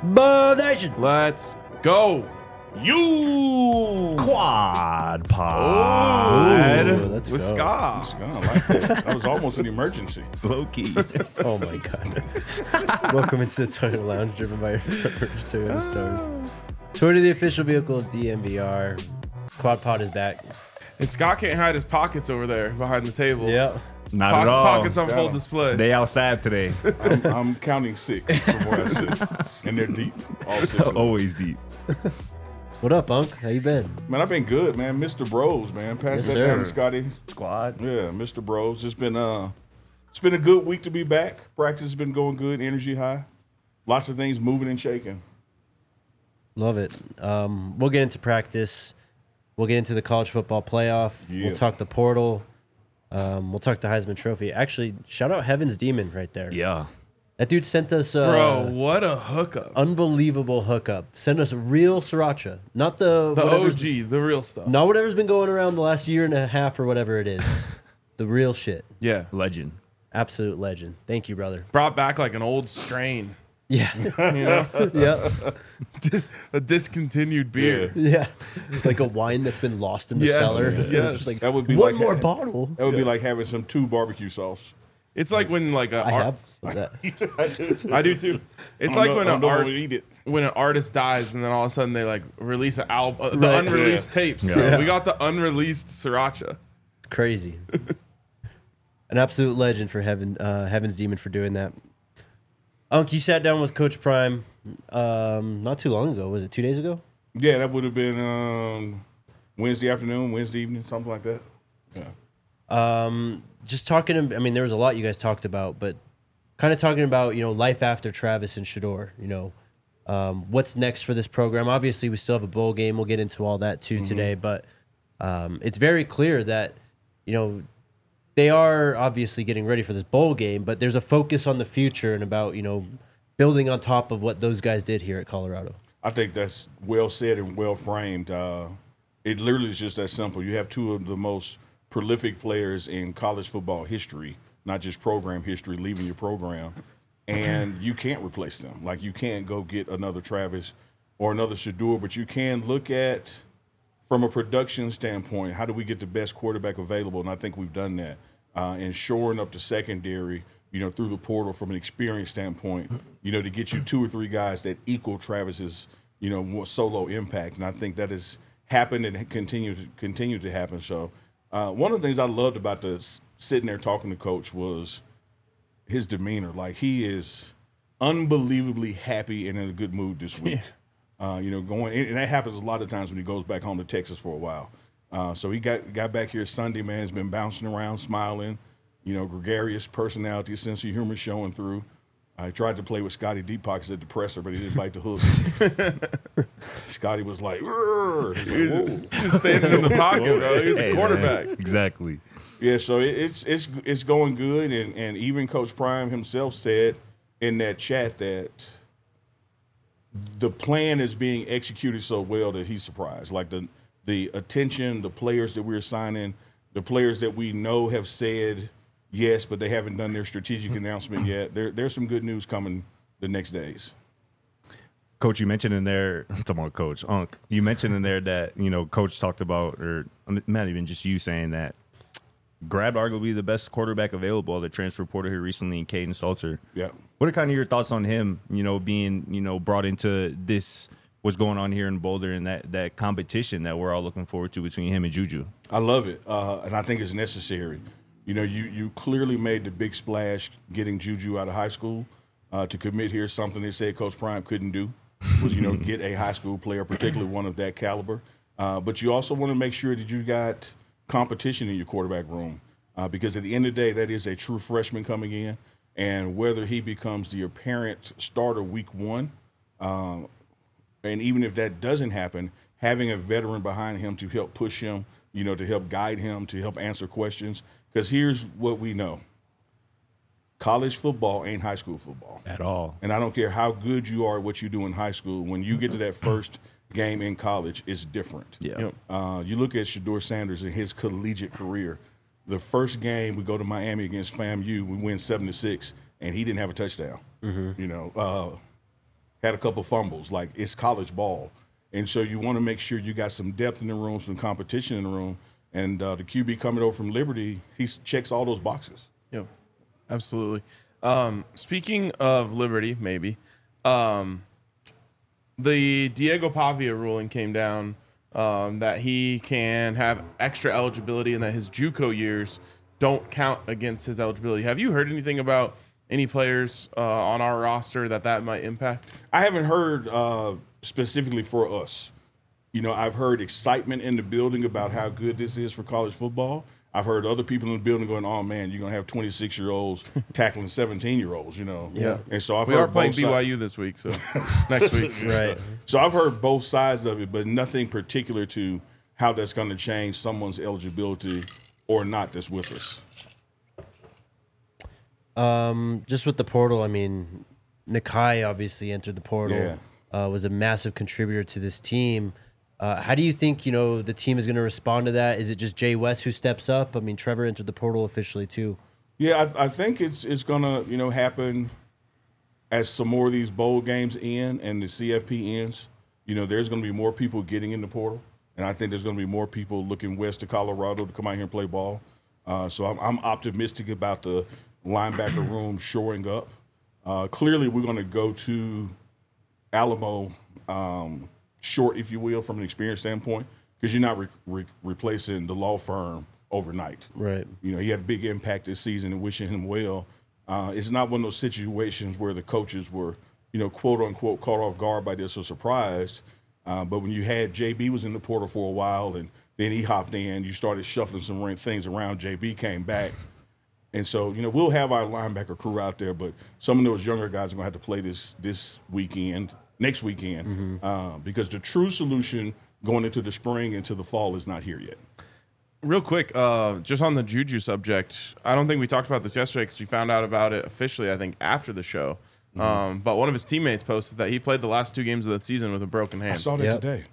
Ball Nation. Let's go. You Quad Pod. Ooh, let's With go. Ska. I like that. That was almost an emergency. Low key. Oh my god. Welcome into the Toyota Lounge, driven by your first Toyota stars. Toyota, the official vehicle of DMVR. Quad Pod is back. And Scott can't hide his pockets over there behind the table. Yeah. Not at all. Pockets on Got full 'em. display. They outside today. I'm counting 6 from where I sit, and they're deep. All 6 of them. Always deep. What up, Unc? How you been? Man, I've been good, man. Mr. Bros, man. Pass Yes, that sir. down to Scotty. Squad. Yeah, Mr. Bros. It's been a good week to be back. Practice has been going good, energy high. Lots of things moving and shaking. Love it. We'll get into practice. We'll get into the college football playoff. Yeah. We'll talk the portal. We'll talk the Heisman Trophy. Actually, shout out Heaven's Demon right there. Yeah. That dude sent us Bro, what a hookup. unbelievable hookup. Sent us real sriracha, not the The whatever's- OG, the real stuff. not whatever's been going around the last year and a half or whatever it is. The real shit. Yeah. Legend. Absolute legend. Thank you, brother. Brought back like an old strain. Yeah. You know? yeah. A discontinued beer. Yeah. Like a wine that's been lost in the Yes, cellar. yes. Just like, That would be one like more bottle. That would be like having some 2 barbecue sauce. It's like when like a I have that. I do too. It's I like don't when know- I an don't art wanna eat it. when an artist dies and then all of a sudden they like release an album, the Right. unreleased Yeah. tapes. Yeah. Bro. Yeah. We got the unreleased sriracha. It's crazy. An absolute legend for Heaven's Demon for doing that. Unc, you sat down with Coach Prime not too long ago. Was it 2 days ago? Yeah, that would have been Wednesday afternoon, Wednesday evening, something like that. Yeah. Just talking, I mean, there was a lot you guys talked about, but kind of talking about, life after Travis and Shador, what's next for this program. Obviously, we still have a bowl game. We'll get into all that too today, but it's very clear that, they are obviously getting ready for this bowl game, but there's a focus on the future and about, building on top of what those guys did here at Colorado. I think that's well said and well framed. It literally is just that simple. You have 2 of the most prolific players in college football history, not just program history, leaving your program, and you can't replace them. Like, you can't go get another Travis or another Shador, but you can look at, from a production standpoint, how do we get the best quarterback available? And I think we've done that. And shoring up the secondary, through the portal from an experience standpoint, to get you 2 or 3 guys that equal Travis's, more solo impact. And I think that has happened and continue to happen. So one of the things I loved about sitting there talking to Coach was his demeanor. Like, he is unbelievably happy and in a good mood this week. Going, and that happens a lot of times when he goes back home to Texas for a while. So he got back here Sunday, man. He's been bouncing around, smiling, gregarious personality, sense of humor showing through. I tried to play with Scotty Deep Pockets at the presser, but he didn't bite the hook. Scotty was like, "Rrr." He's like, "Whoa." Just standing in the pocket, bro. He's Hey, a quarterback. man. Exactly. Yeah, so it's going good, and even Coach Prime himself said in that chat that the plan is being executed so well that he's surprised. Like the attention, the players that we're signing, the players that we know have said yes, but they haven't done their strategic announcement yet. There's some good news coming the next days. Coach, you mentioned in there, I'm talking about Coach Unc, you mentioned in there that, Coach talked about, or not even just you saying that, grabbed arguably the best quarterback available, the transfer portal here recently in Caden Salter. Yeah. What are kind of your thoughts on him, being, brought into this, what's going on here in Boulder and that competition that we're all looking forward to between him and Juju? I love it, and I think it's necessary. You clearly made the big splash getting Juju out of high school to commit here, something they said Coach Prime couldn't do, was, get a high school player, particularly one of that caliber. But you also want to make sure that you got competition in your quarterback room because at the end of the day, that is a true freshman coming in, and whether he becomes the apparent starter week 1, and even if that doesn't happen, having a veteran behind him to help push him, to help guide him, to help answer questions. Because here's what we know. College football ain't high school football. At all. And I don't care how good you are at what you do in high school. When you get to that first game in college, it's different. Yeah. You look at Shador Sanders in his collegiate career. The first game we go to Miami against FAMU, we win 7-6, and he didn't have a touchdown. had a couple fumbles. Like, it's college ball. And so you want to make sure you got some depth in the room, some competition in the room. And the QB coming over from Liberty, he checks all those boxes. Yep, absolutely. Speaking of Liberty, maybe, the Diego Pavia ruling came down that he can have extra eligibility and that his JUCO years don't count against his eligibility. Have you heard anything about any players on our roster that might impact? I haven't heard specifically for us. You know, I've heard excitement in the building about how good this is for college football. I've heard other people in the building going, "Oh man, you're gonna have 26-year-olds tackling 17-year-olds." You know, Yeah. And so I've We heard are playing both sides. BYU this week, so next week. Right. So I've heard both sides of it, but nothing particular to how that's going to change someone's eligibility or not that's with us. Just with the portal, I mean, Nakai obviously entered the portal, was a massive contributor to this team. How do you think, you know, the team is going to respond to that? Is it just Jay West who steps up? I mean, Trevor entered the portal officially too. Yeah, I think it's going to, you know, happen as some more of these bowl games end and the CFP ends. You know, there's going to be more people getting in the portal, and I think there's going to be more people looking west of Colorado to come out here and play ball. So I'm optimistic about the linebacker room shoring up. Clearly, we're going to go to Alamo short, if you will, from an experience standpoint, because you're not replacing the law firm overnight. Right. You know, he had a big impact this season and wishing him well. It's not one of those situations where the coaches were, you know, quote unquote, caught off guard by this or surprised. But when you had JB was in the portal for a while and then he hopped in, you started shuffling some things around. JB came back. And so, you know, we'll have our linebacker crew out there, but some of those younger guys are going to have to play this weekend, next weekend, because the true solution going into the spring, into the fall is not here yet. Real quick, just on the Juju subject, I don't think we talked about this yesterday because we found out about it officially, I think, after the show. But one of his teammates posted that he played the last 2 games of the season with a broken hand. I saw that today.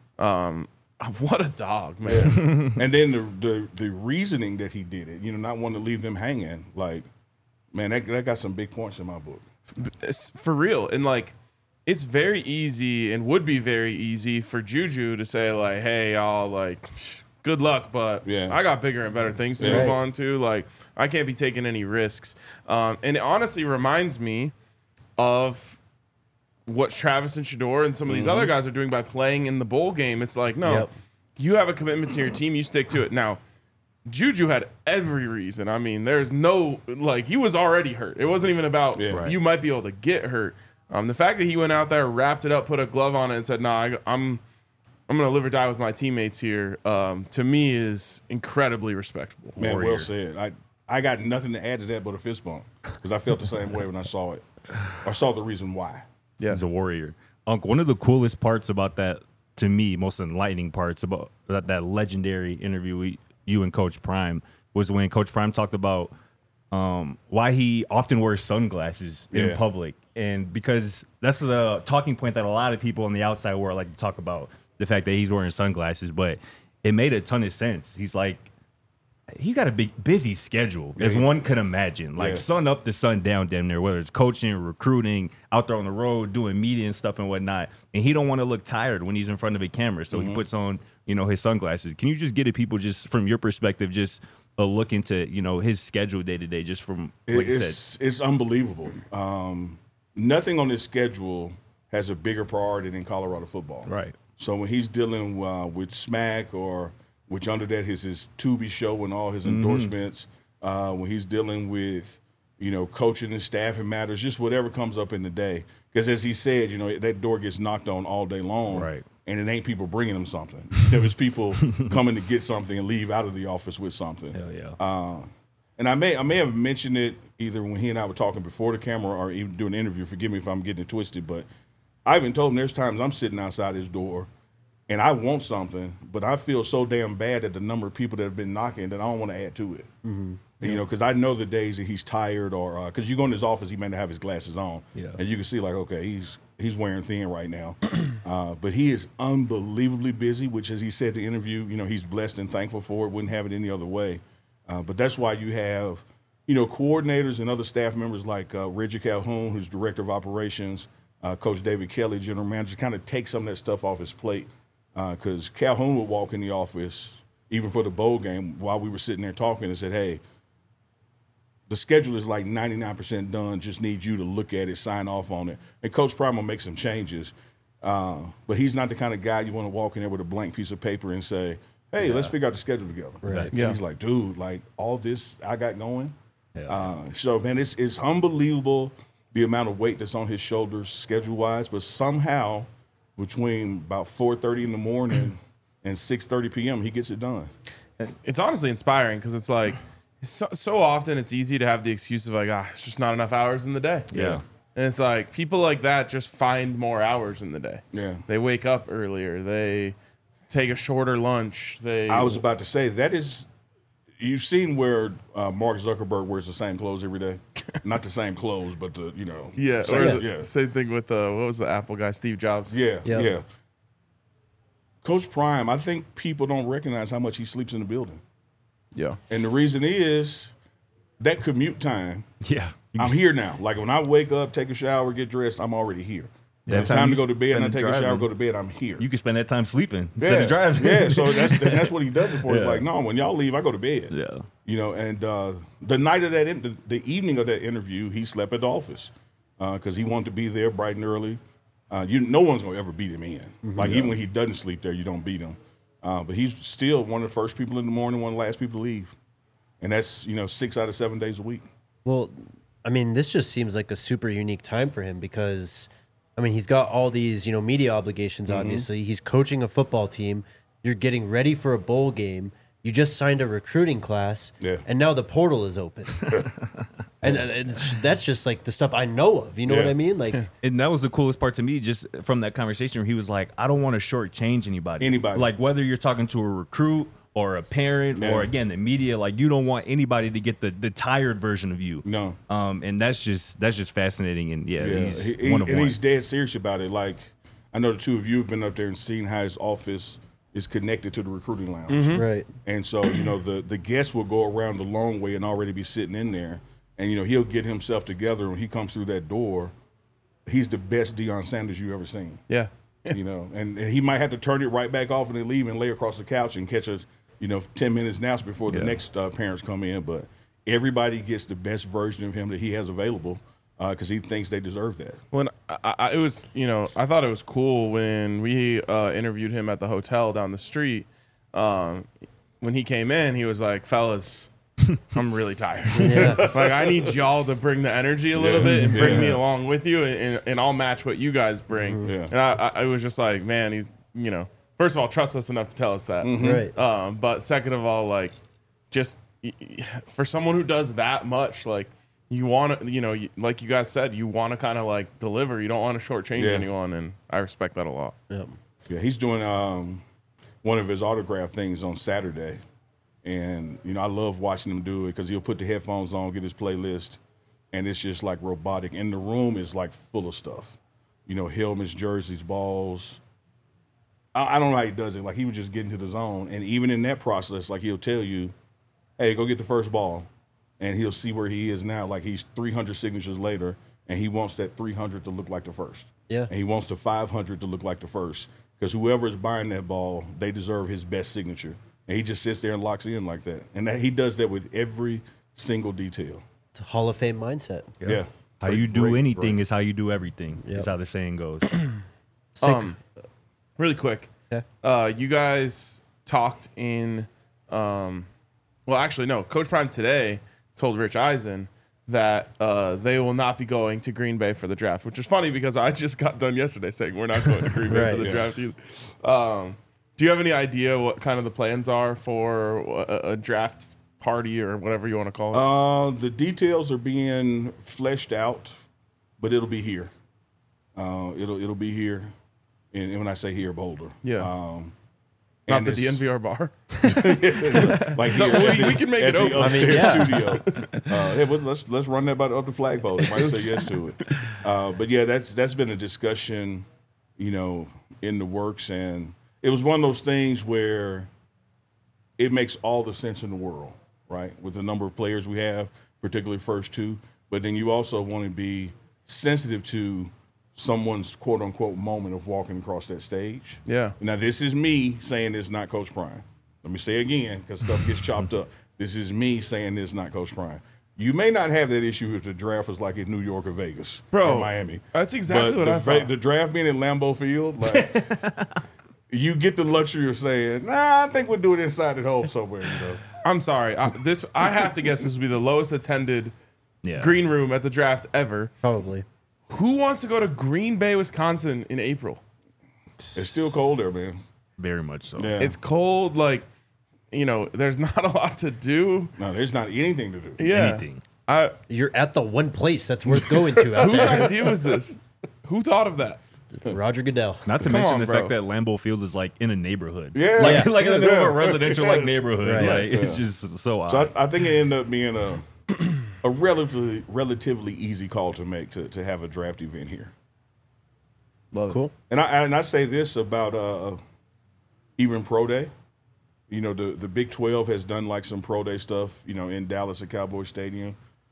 What a dog, man. And then the reasoning that he did it, you know, not wanting to leave them hanging, like, man, that got some big points in my book. It's for real. And, like, it's very easy and would be very easy for Juju to say, like, hey, y'all, like, good luck, but I got bigger and better things to move on to. Like, I can't be taking any risks. And it honestly reminds me of what Travis and Shedeur and some of these other guys are doing by playing in the bowl game. It's like, no, you have a commitment to your team. You stick to it. Now, Juju had every reason. I mean, there's no, like, he was already hurt. It wasn't even about you might be able to get hurt. The fact that he went out there, wrapped it up, put a glove on it, and said, "Nah, I'm going to live or die with my teammates here," to me is incredibly respectable. Man, well said. I got nothing to add to that but a fist bump because I felt the same way when I saw it. I saw the reason why. Yeah. He's a warrior. One of the coolest parts about that, to me, most enlightening parts about that legendary interview you and Coach Prime was when Coach Prime talked about why he often wears sunglasses in public. And because that's the talking point that a lot of people on the outside world like to talk about, the fact that he's wearing sunglasses. But it made a ton of sense. He's like, he got a big, busy schedule, as one could imagine. Like sun up to sun down damn near, whether it's coaching, recruiting, out there on the road, doing media and stuff and whatnot. And he don't want to look tired when he's in front of a camera. So he puts on, you know, his sunglasses. Can you just get at people just from your perspective, just a look into, you know, his schedule day to day, just from, like I said. It's unbelievable. Nothing on his schedule has a bigger priority than Colorado football. Right. So when he's dealing with SMAC, or which under that is his Tubi show and all his endorsements, when he's dealing with, you know, coaching and staffing matters, just whatever comes up in the day. Because as he said, you know, that door gets knocked on all day long. Right. And it ain't people bringing him something. It was people coming to get something and leave out of the office with something. Hell yeah. And I may have mentioned it either when he and I were talking before the camera or even doing an interview. Forgive me if I'm getting it twisted, but I even told him there's times I'm sitting outside his door and I want something, but I feel so damn bad at the number of people that have been knocking that I don't want to add to it. You know, because I know the days that he's tired, or because you go in his office, he may not have his glasses on, and you can see like, okay, he's wearing thin right now, but he is unbelievably busy. Which, as he said in the interview, you know, he's blessed and thankful for it. Wouldn't have it any other way. But that's why you have, you know, coordinators and other staff members like Reggie Calhoun, who's director of operations, Coach David Kelly, general manager, kind of take some of that stuff off his plate. Because Calhoun would walk in the office, even for the bowl game, while we were sitting there talking, and said, hey, the schedule is like 99% done, just need you to look at it, sign off on it. And Coach Prime will make some changes. But he's not the kind of guy you want to walk in there with a blank piece of paper and say, hey, let's figure out the schedule together. Right. Yeah. He's like, dude, like all this I got going. Yeah. So, man, it's unbelievable the amount of weight that's on his shoulders schedule-wise, but somehow between about 4:30 in the morning and 6:30 p.m., he gets it done. It's honestly inspiring because it's like so often it's easy to have the excuse of like, it's just not enough hours in the day. Yeah. And it's like people like that just find more hours in the day. Yeah. They wake up earlier. They take a shorter lunch. I was about to say, that is – you've seen where Mark Zuckerberg wears the same clothes every day? Not the same clothes, but the, Yeah. Same, Same thing with, what was the Apple guy, Steve Jobs? Yeah. Coach Prime, I think people don't recognize how much he sleeps in the building. Yeah. And the reason is that commute time. Yeah. I'm here now. Like when I wake up, take a shower, get dressed, I'm already here. Yeah, it's time to go to bed, and I take a shower, go to bed, I'm here. You can spend that time sleeping instead of driving. Yeah, so that's what he does it for. It's like, no, when y'all leave, I go to bed. Yeah. And the night of that, the evening of that interview, he slept at the office because he wanted to be there bright and early. No one's going to ever beat him in. Like, even when he doesn't sleep there, you don't beat him. But he's still one of the first people in the morning, one of the last people to leave. And that's, 6 out of 7 days a week. Well, I mean, this just seems like a super unique time for him because, I mean, he's got all these, media obligations, obviously. He's coaching a football team. You're getting ready for a bowl game. You just signed a recruiting class. Yeah. And now the portal is open. And that's just like the stuff I know of. You know what I mean? Like, and that was the coolest part to me, just from that conversation where he was like, I don't want to shortchange anybody. Like, whether you're talking to a recruit or a parent or, again, the media, like, you don't want anybody to get the tired version of you. No. And that's just fascinating. And, he's one of one. And he's dead serious about it. Like, I know the two of you have been up there and seen how his office is connected to the recruiting lounge. Right. And so, the guests will go around the long way and already be sitting in there. And, he'll get himself together when he comes through that door. He's the best Deion Sanders you've ever seen. Yeah. And he might have to turn it right back off and then leave and lay across the couch and catch us, 10 minutes now before the next parents come in. But everybody gets the best version of him that he has available because he thinks they deserve that. When I thought it was cool when we interviewed him at the hotel down the street. When he came in, he was like, fellas, I'm really tired. Like, I need y'all to bring the energy a little bit and bring me along with you, and I'll match what you guys bring. And I was just like, man, he's, first of all, trust us enough to tell us that. Right. But second of all, like, just for someone who does that much, like, you want to, like you guys said, you want to kind of like deliver. You don't want to shortchange anyone, and I respect that a lot. Yeah, he's doing one of his autograph things on Saturday. And, I love watching him do it because he'll put the headphones on, get his playlist, and it's just like robotic. And the room is like full of stuff. Helmets, jerseys, balls. I don't know how he does it. Like, he would just get into the zone. And even in that process, like, he'll tell you, hey, go get the first ball. And he'll see where he is now. Like, he's 300 signatures later, and he wants that 300 to look like the first. Yeah. And he wants the 500 to look like the first. Because whoever is buying that ball, they deserve his best signature. And he just sits there and locks in like that. And he does that with every single detail. It's a Hall of Fame mindset. Yeah. How you do anything is how you do everything, is how the saying goes. Really quick. You guys talked in well, actually, no. Coach Prime today told Rich Eisen that they will not be going to Green Bay for the draft, which is funny because I just got done yesterday saying we're not going to Green Bay for the draft either. Do you have any idea what kind of the plans are for a draft party or whatever you want to call it? The details are being fleshed out, but it'll be here. It'll be here, and when I say here, Boulder. Yeah. Not the DNVR bar. Like so here, we can make it open. Upstairs studio. Hey, let's run that up the flagpole. They might say yes to it. But yeah, that's been a discussion, in the works, and it was one of those things where it makes all the sense in the world, right? With the number of players we have, particularly first two. But then you also want to be sensitive to someone's quote unquote moment of walking across that stage. Yeah. Now, this is me saying this, not Coach Prime. Let me say it again because stuff gets chopped up. This is me saying this, not Coach Prime. You may not have that issue if the draft was like in New York or Vegas or Miami. That's exactly what I thought. The draft being in Lambeau Field, like, you get the luxury of saying, nah, I think we'll do it inside at home somewhere, you know. I'm sorry. I have to guess this will be the lowest attended green room at the draft ever. Probably. Who wants to go to Green Bay, Wisconsin in April? It's still cold there, man. Very much so. Yeah. It's cold, like, there's not a lot to do. No, there's not anything to do. Yeah. Anything. You're at the one place that's worth going to out Whose there. idea was this? Who thought of that? Roger Goodell. Not to Come mention on, the bro. fact that Lambeau Field is like in a neighborhood. Yeah. Like in the middle of a residential Yes. neighborhood. Right. Like, Yes, it's just so odd. So I think it ended up being a relatively easy call to make to have a draft event here. Love Cool. And I say this about even Pro Day. The Big 12 has done like some Pro Day stuff, in Dallas at Cowboy Stadium.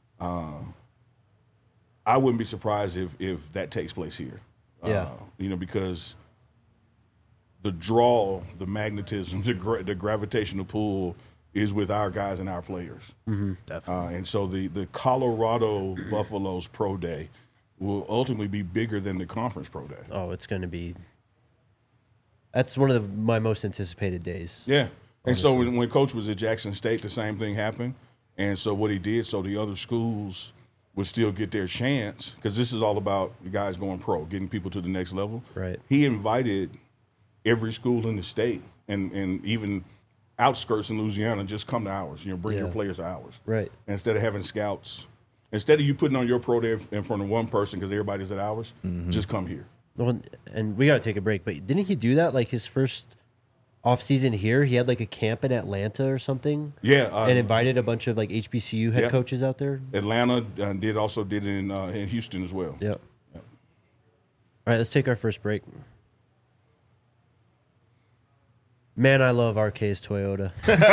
I wouldn't be surprised if that takes place here. Yeah. Because the draw, the magnetism, the gravitational pull is with our guys and our players. Definitely. And so the Colorado Buffaloes Pro Day will ultimately be bigger than the Conference Pro Day. Oh, it's going to be. That's one of my most anticipated days. Yeah. And so when Coach was at Jackson State, the same thing happened. And so what he did, so the other schools would still get their chance, because this is all about the guys going pro, getting people to the next level. Right. He invited every school in the state and even outskirts in Louisiana, just come to ours. Bring your players to ours. Right. Instead of having scouts. Instead of you putting on your pro day in front of one person because everybody's at ours, just come here. Well, and we got to take a break, but didn't he do that like his first off-season here? He had like a camp in Atlanta or something. Yeah. And invited a bunch of like HBCU head coaches out there. Atlanta did it in Houston as well. Yep. All right, let's take our first break. Man, I love RK's Toyota.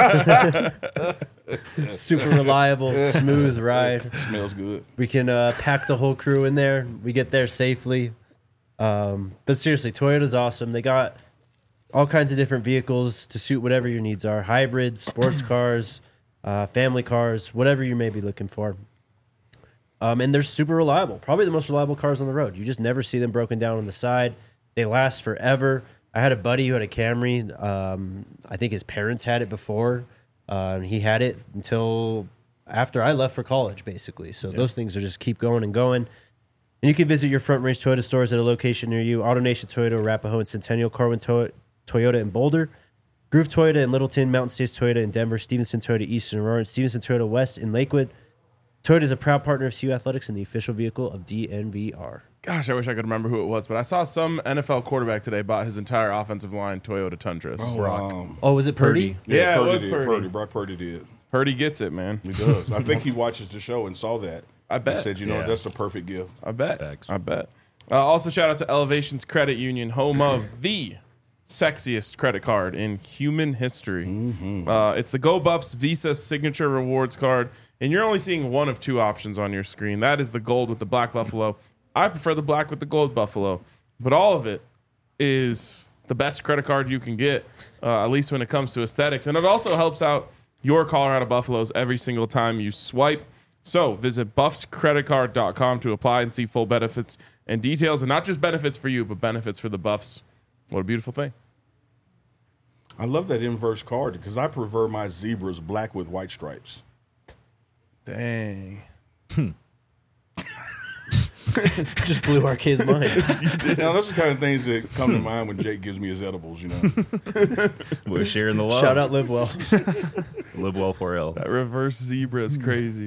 Super reliable, smooth ride. Smells good. We can pack the whole crew in there. We get there safely. But seriously, Toyota's awesome. They got all kinds of different vehicles to suit whatever your needs are. Hybrids, sports cars, family cars, whatever you may be looking for. And they're super reliable. Probably the most reliable cars on the road. You just never see them broken down on the side. They last forever. I had a buddy who had a Camry. I think his parents had it before. He had it until after I left for college, basically. So those things are just keep going and going. And you can visit your Front Range Toyota stores at a location near you. AutoNation Toyota, Arapahoe and Centennial, Carwin Toyota in Boulder, Groove Toyota in Littleton, Mountain States Toyota in Denver, Stevenson Toyota East in Aurora, and Stevenson Toyota West in Lakewood. Toyota is a proud partner of CU Athletics and the official vehicle of DNVR. Gosh, I wish I could remember who it was, but I saw some NFL quarterback today bought his entire offensive line Toyota Tundras. Oh, was it Purdy? Yeah, Purdy it was did. Purdy. Brock Purdy did. Purdy gets it, man. He does. I think he watches the show and saw that. I bet. He said, that's the perfect gift. I bet. Facts. I bet. Also, shout out to Elevations Credit Union, home of the sexiest credit card in human history. It's the Go Buffs Visa Signature Rewards card, and you're only seeing one of two options on your screen. That is the gold with the black buffalo. I prefer the black with the gold buffalo, but all of it is the best credit card you can get, at least when it comes to aesthetics. And it also helps out your Colorado Buffaloes every single time you swipe. So visit buffscreditcard.com to apply and see full benefits and details, and not just benefits for you, but benefits for the Buffs. What a beautiful thing. I love that inverse card because I prefer my zebras black with white stripes. Dang. Just blew RK's mind. Now, those are the kind of things that come to mind when Jake gives me his edibles, We're sharing the love. Shout out Live Well. Live well 4L. That reverse zebra is crazy.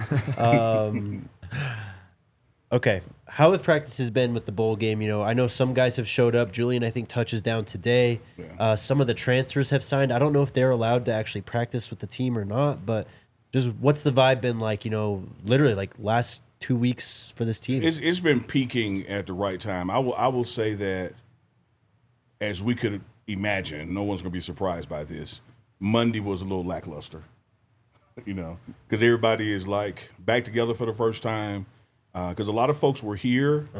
Okay. How have practices been with the bowl game? I know some guys have showed up. Julian, I think, touches down today. Yeah. Some of the transfers have signed. I don't know if they're allowed to actually practice with the team or not, but just what's the vibe been like, literally like last 2 weeks for this team? It's been peaking at the right time. I will say that, as we could imagine, no one's going to be surprised by this. Monday was a little lackluster, because everybody is like back together for the first time. Because a lot of folks were here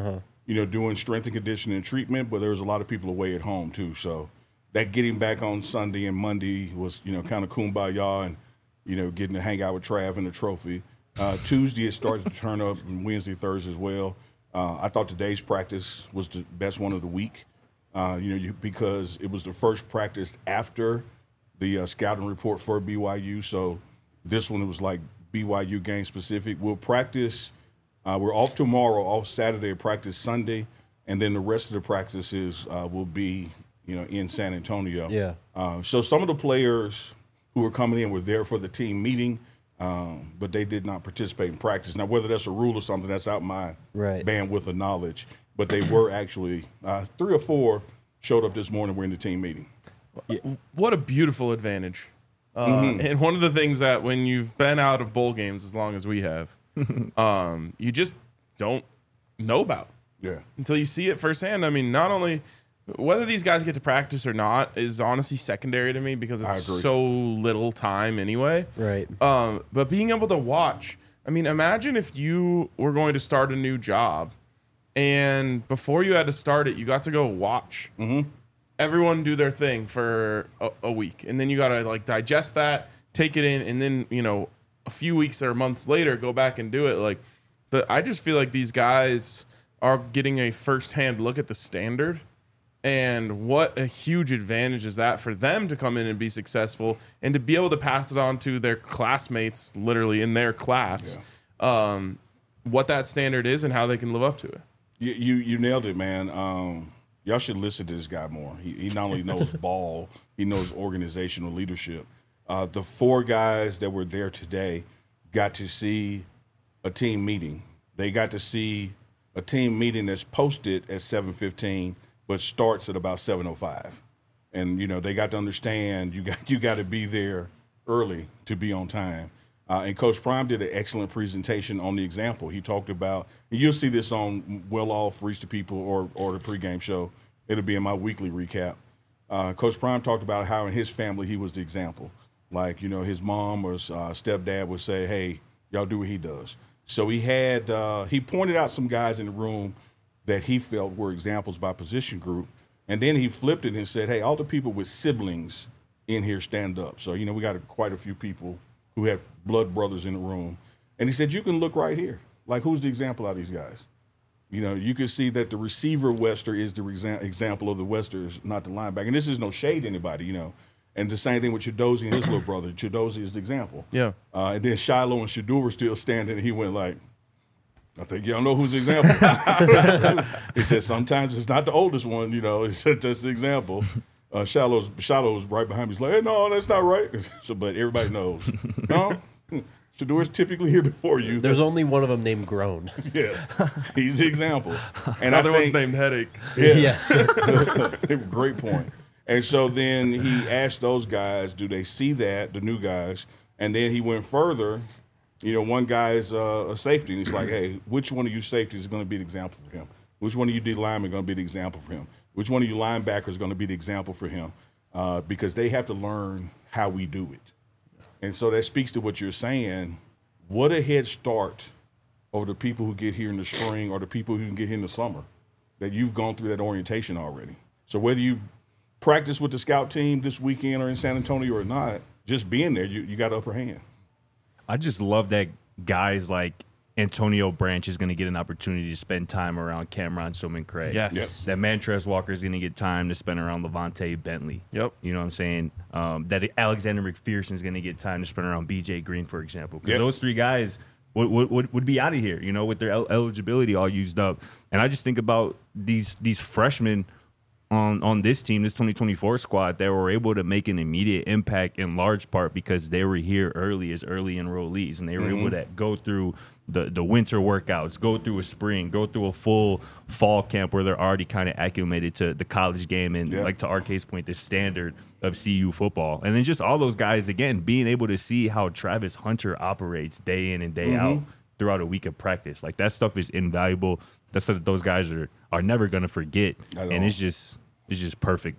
doing strength and conditioning treatment, but there was a lot of people away at home too. So that getting back on Sunday and Monday was, kind of kumbaya and, getting to hang out with Trav and the trophy. Tuesday it started to turn up, and Wednesday, Thursday as well. I thought today's practice was the best one of the week, because it was the first practice after the scouting report for BYU. So this one, it was like BYU game specific. We'll practice. We're off tomorrow, off Saturday, practice Sunday, and then the rest of the practices will be, in San Antonio. Yeah. So some of the players who were coming in were there for the team meeting, but they did not participate in practice. Now, whether that's a rule or something, that's out my bandwidth of knowledge. But they were actually 3 or 4 showed up this morning. We're in the team meeting. What a beautiful advantage. And one of the things that when you've been out of bowl games as long as we have, you just don't know about until you see it firsthand. I mean, not only whether these guys get to practice or not is honestly secondary to me because it's so little time anyway. Right. But being able to watch, I mean, imagine if you were going to start a new job and before you had to start it, you got to go watch everyone do their thing for a week. And then you got to like digest that, take it in, and then, a few weeks or months later, go back and do it. Like, I just feel like these guys are getting a firsthand look at the standard, and what a huge advantage is that for them to come in and be successful, and to be able to pass it on to their classmates, literally in their class, what that standard is and how they can live up to it. You nailed it, man. Y'all should listen to this guy more. He not only knows ball, he knows organizational leadership. The 4 guys that were there today got to see a team meeting. They got to see a team meeting that's posted at 7:15, but starts at about 7:05. And, they got to understand you got to be there early to be on time. And Coach Prime did an excellent presentation on the example. He talked about, and you'll see this on Well Off, Reach the People, or the pregame show. It'll be in my weekly recap. Coach Prime talked about how in his family he was the example. Like, his mom or stepdad would say, hey, y'all do what he does. So he pointed out some guys in the room that he felt were examples by position group. And then he flipped it and said, hey, all the people with siblings in here stand up. So, we got quite a few people who have blood brothers in the room. And he said, you can look right here. Like, who's the example of these guys? You can see that the receiver Wester is the example of the Westers, not the linebacker. And this is no shade to anybody, And the same thing with Chidozie and his little brother. Chidozie is the example. Yeah. And then Shiloh and Shador were still standing, and he went like, I think y'all know who's the example. He said sometimes it's not the oldest one, it's just the example. Shiloh was right behind me. He's like, hey, no, that's not right. But everybody knows. No, Shador's typically here before you. There's only one of them named Grown. Yeah, he's the example. And Another one's named Headache. Yeah. Yes. Great point. And so then he asked those guys, do they see that, the new guys? And then he went further. One guy is a safety, and he's like, hey, which one of you safeties is going to be the example for him? Which one of you D linemen are going to be the example for him? Which one of you linebackers is going to be the example for him? Because they have to learn how we do it. And so that speaks to what you're saying. What a head start over the people who get here in the spring or the people who can get here in the summer, that you've gone through that orientation already. So whether you practice with the scout team this weekend or in San Antonio or not, just being there, you got upper hand. I just love that guys like Antonio Branch is going to get an opportunity to spend time around Cameron Suman-Craig. Yes. Yep. That Mantrez Walker is going to get time to spend around Levante Bentley. Yep. You know what I'm saying? That Alexander McPherson is going to get time to spend around BJ Green, for example. Because those 3 guys would be out of here, with their eligibility all used up. And I just think about these freshmen on this team, this 2024 squad, that were able to make an immediate impact in large part because they were here early as early enrollees, and they were able to go through the winter workouts, go through a spring, go through a full fall camp where they're already kind of acclimated to the college game and, like to RK's point, the standard of CU football. And then just all those guys, again, being able to see how Travis Hunter operates day in and day out throughout a week of practice. Like, that stuff is invaluable. That's what those guys are never going to forget. And it's just is just perfect.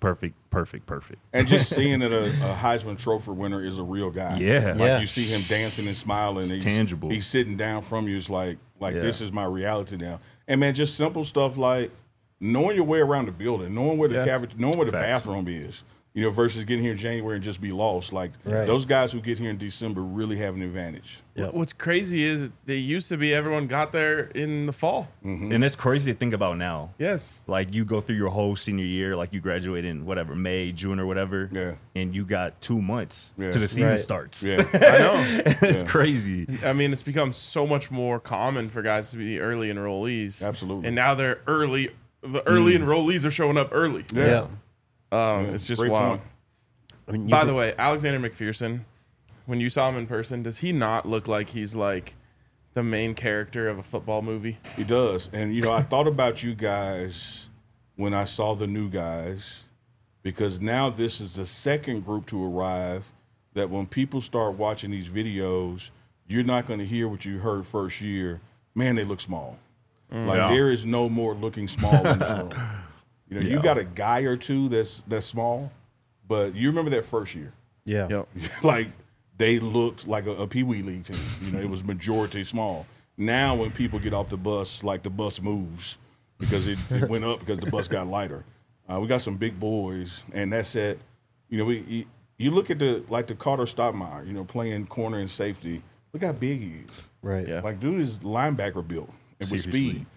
And just seeing that a Heisman Trophy winner is a real guy. Yeah. Like you see him dancing and smiling. It's tangible. He's sitting down from you. It's like this is my reality now. And man, just simple stuff like knowing your way around the building, knowing where the knowing where the bathroom is. You know, versus getting here in January and just be lost. Like those guys who get here in December really have an advantage. Yep. What's crazy is they used to be everyone got there in the fall. Mm-hmm. And it's crazy to think about now. Yes. Like you go through your whole senior year, like you graduate in whatever, May, June or whatever. Yeah. And you got 2 months to the season starts. Yeah. I know. It's crazy. I mean, it's become so much more common for guys to be early enrollees. Absolutely. And now they're early. The early enrollees are showing up early. Yeah. It's just Great wild. point. I mean, By the way, Alexander McPherson, when you saw him in person, does he not look like he's like the main character of a football movie? He does. And, you know, I thought about you guys when I saw the new guys, because now this is the second group to arrive that when people start watching these videos, you're not going to hear what you heard first year. Man, they look small. There is no more looking small in this room. You know, you got a guy or two that's small, but you remember that first year. Yeah. Yep. Like they looked like a Pee Wee League team. You know, it was majority small. Now when people get off the bus, like the bus moves because it went up because the bus got lighter. We got some big boys, and that's it. You know, you look at the Carter Stoudemire, you know, playing corner and safety. Look how big he is. Right. Yeah. Like dude is linebacker built and with Seriously. speed.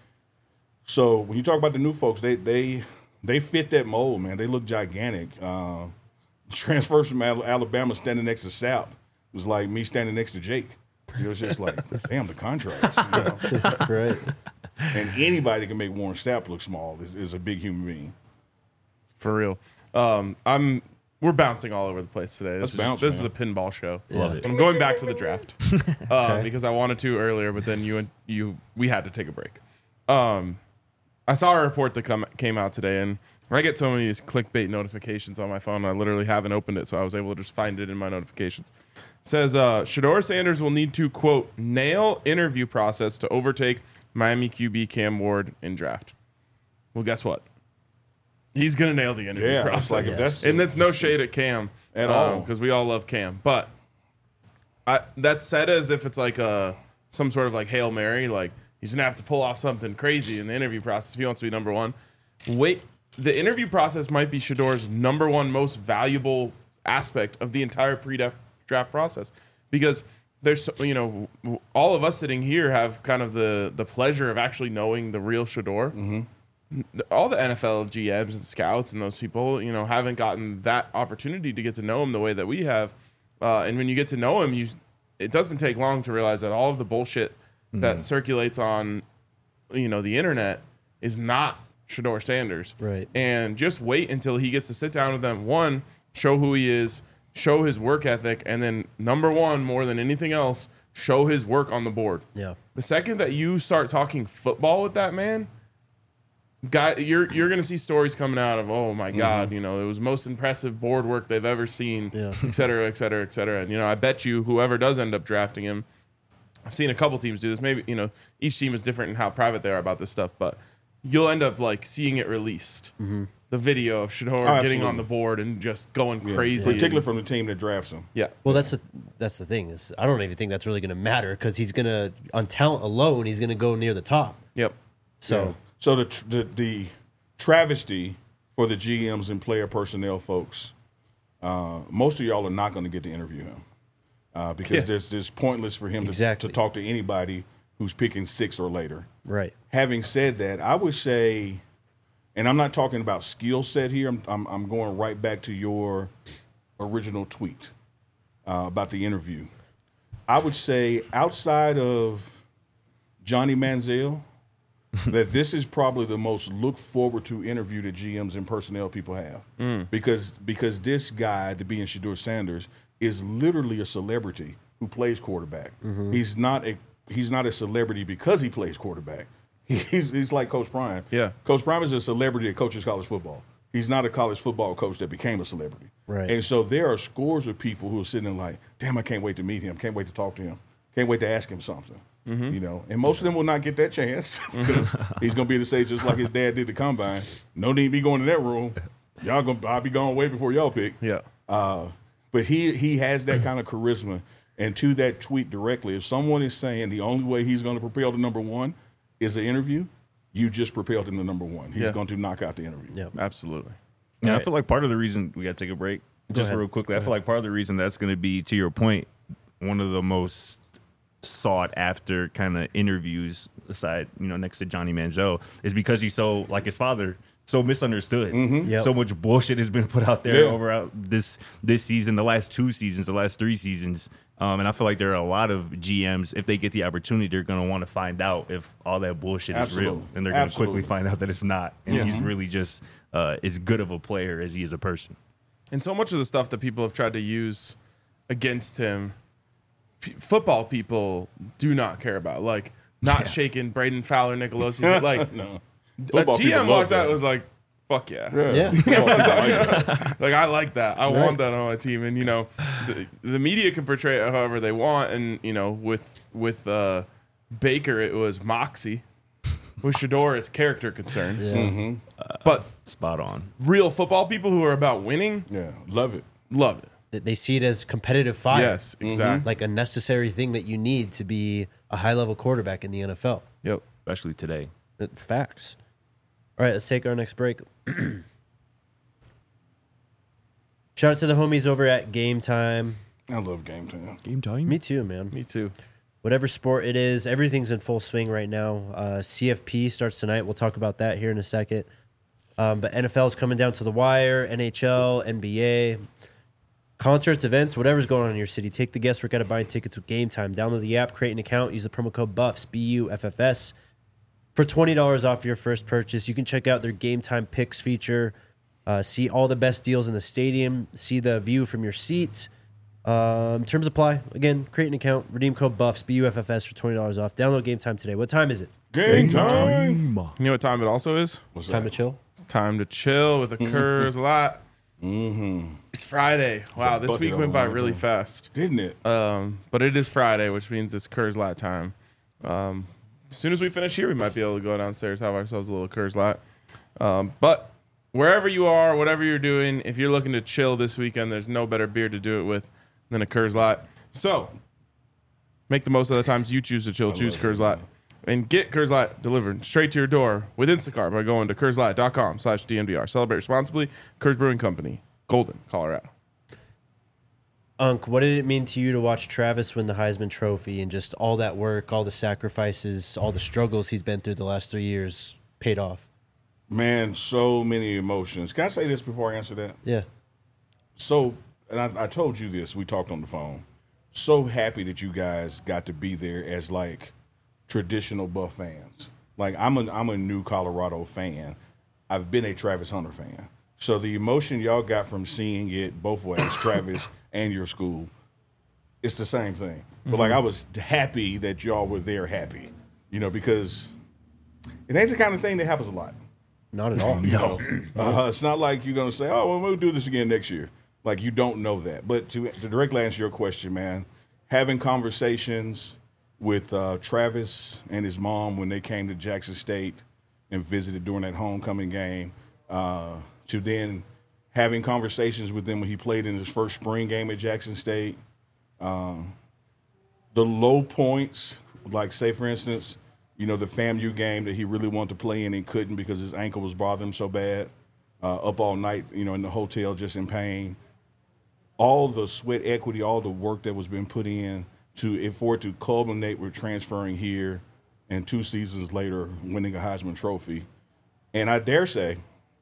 So when you talk about the new folks, they fit that mold, man. They look gigantic. Transfers from Alabama standing next to Sapp was like me standing next to Jake. You know, it's just like, damn, the contrast. You know? Right. And anybody can make Warren Sapp look small is a big human being. For real. We're bouncing all over the place today. This is a pinball show. Love it. I'm going back to the draft because I wanted to earlier, but then we had to take a break. I saw a report that came out today, and I get so many of these clickbait notifications on my phone. I literally haven't opened it, so I was able to just find it in my notifications. It says, Shedeur Sanders will need to, quote, nail interview process to overtake Miami QB Cam Ward in draft. Well, guess what? He's going to nail the interview process. Like if and that's no shade at Cam. At all. Because we all love Cam. But that's said as if it's like some sort of like Hail Mary. Like, he's going to have to pull off something crazy in the interview process if he wants to be number one. Wait, the interview process might be Shedeur's number one most valuable aspect of the entire pre-draft process. Because there's, you know, all of us sitting here have kind of the pleasure of actually knowing the real Shedeur. Mm-hmm. All the NFL GMs and scouts and those people, you know, haven't gotten that opportunity to get to know him the way that we have. And when you get to know him, it doesn't take long to realize that all of the bullshit that circulates on, you know, the internet is not Shedeur Sanders. Right. And just wait until he gets to sit down with them. One, show who he is, show his work ethic, and then number one, more than anything else, show his work on the board. Yeah. The second that you start talking football with that man, guy, you're gonna see stories coming out of, oh my God, you know, it was most impressive board work they've ever seen, et cetera, et cetera, et cetera. And you know, I bet you whoever does end up drafting him, I've seen a couple teams do this. Maybe, you know, each team is different in how private they are about this stuff, but you'll end up like seeing it released. The video of Shedeur getting on the board and just going crazy, particularly from the team that drafts him. Yeah. Well, that's the thing is I don't even think that's really going to matter because he's going to, on talent alone, he's going to go near the top. Yep. So. Yeah. So the travesty for the GMs and player personnel folks, most of y'all are not going to get to interview him because there's pointless for him to talk to anybody who's picking 6 or later. Right. Having said that, I would say, and I'm not talking about skill set here. I'm going right back to your original tweet about the interview. I would say outside of Johnny Manziel, that this is probably the most look forward to interview that GMs and personnel people have because this guy, to be in Shedeur Sanders, is literally a celebrity who plays quarterback. He's not a celebrity because he plays quarterback. He's like Coach Prime. Yeah, Coach Prime is a celebrity that coaches college football. He's not a college football coach that became a celebrity. Right. And so there are scores of people who are sitting there like, damn, I can't wait to meet him. Can't wait to talk to him. Can't wait to ask him something. You know, and most of them will not get that chance because he's going to be able to say just like his dad did the combine. No need to be going to that room. I'll be gone way before y'all pick. Yeah. But he has that kind of charisma. And to that tweet directly, if someone is saying the only way he's going to propel to number one is an interview, you just propelled him to number one. He's going to knock out the interview. Yeah, absolutely. Yeah, I feel like part of the reason we got to take a break, just real quickly, I feel like part of the reason that's going to be, to your point, one of the most sought after kind of interviews aside, next to Johnny Manziel, is because he's so, like his father, so misunderstood. Yep. So much bullshit has been put out there over this season, the last 2 seasons, the last 3 seasons. And I feel like there are a lot of GMs, if they get the opportunity, they're going to want to find out if all that bullshit is real. And they're going to quickly find out that it's not. And he's really just as good of a player as he is a person. And so much of the stuff that people have tried to use against him, football people do not care about. Like, not shaking Braden Fowler, Nicolosi. Like, No. A GM watched that and was like, fuck yeah. Like, I like that. I want that on my team. And, the media can portray it however they want. And, with Baker, it was moxie. With Shedeur, it's character concerns. Yeah. But spot on. Real football people who are about winning, love it. Love it. They see it as competitive fire. Yes, exactly. Like a necessary thing that you need to be a high-level quarterback in the NFL. Yep. Especially today. Facts. All right, let's take our next break. Shout out to the homies over at Game Time. I love Game Time. Game time? Me too, man. Me too. Whatever sport it is, everything's in full swing right now. CFP starts tonight. We'll talk about that here in a second. But NFL's coming down to the wire, NHL, NBA, concerts, events, whatever's going on in your city. Take the guesswork out of buying tickets with Game Time. Download the app, create an account, use the promo code BUFFS, BUFFS, for $20 off your first purchase. You can check out their Game Time Picks feature, see all the best deals in the stadium, see the view from your seat. Terms apply. Again, create an account, redeem code BUFFS, BUFFS, for $20 off. Download Game Time today. What time is it? Game time. You know what time it also is? What's Time that? to chill? Time to chill with the Kurz lot. It's Friday. Wow, this week went by really fast. Didn't it? But it is Friday, which means it's Kurz lot time. As soon as we finish here, we might be able to go downstairs, have ourselves a little Kurz lot. But wherever you are, whatever you're doing, if you're looking to chill this weekend, there's no better beer to do it with than a Kurz lot. So make the most of the times you choose to chill. Choose Kurz lot. And get Kurz Light delivered straight to your door with Instacart by going to KurzLight.com/DNVR. Celebrate responsibly. Kurz Brewing Company, Golden, Colorado. Unc, what did it mean to you to watch Travis win the Heisman Trophy and just all that work, all the sacrifices, all the struggles he's been through the last 3 years paid off? Man, so many emotions. Can I say this before I answer that? Yeah. So, and I told you this, we talked on the phone. So happy that you guys got to be there as like traditional Buff fans. Like I'm a new Colorado fan. I've been a Travis Hunter fan. So the emotion y'all got from seeing it both ways, Travis and your school, it's the same thing. But like I was happy that y'all were there happy, because it ain't the kind of thing that happens a lot. Not at all. No. It's not like you're going to say, oh, well, we'll do this again next year. Like you don't know that. But to directly answer your question, man, having conversations with Travis and his mom when they came to Jackson State and visited during that homecoming game, to then having conversations with them when he played in his first spring game at Jackson State. The low points, like say, for instance, the FAMU game that he really wanted to play in and couldn't because his ankle was bothering him so bad, up all night, in the hotel just in pain. All the sweat equity, all the work that was being put in for it to culminate with transferring here and 2 seasons later winning a Heisman Trophy. And I dare say,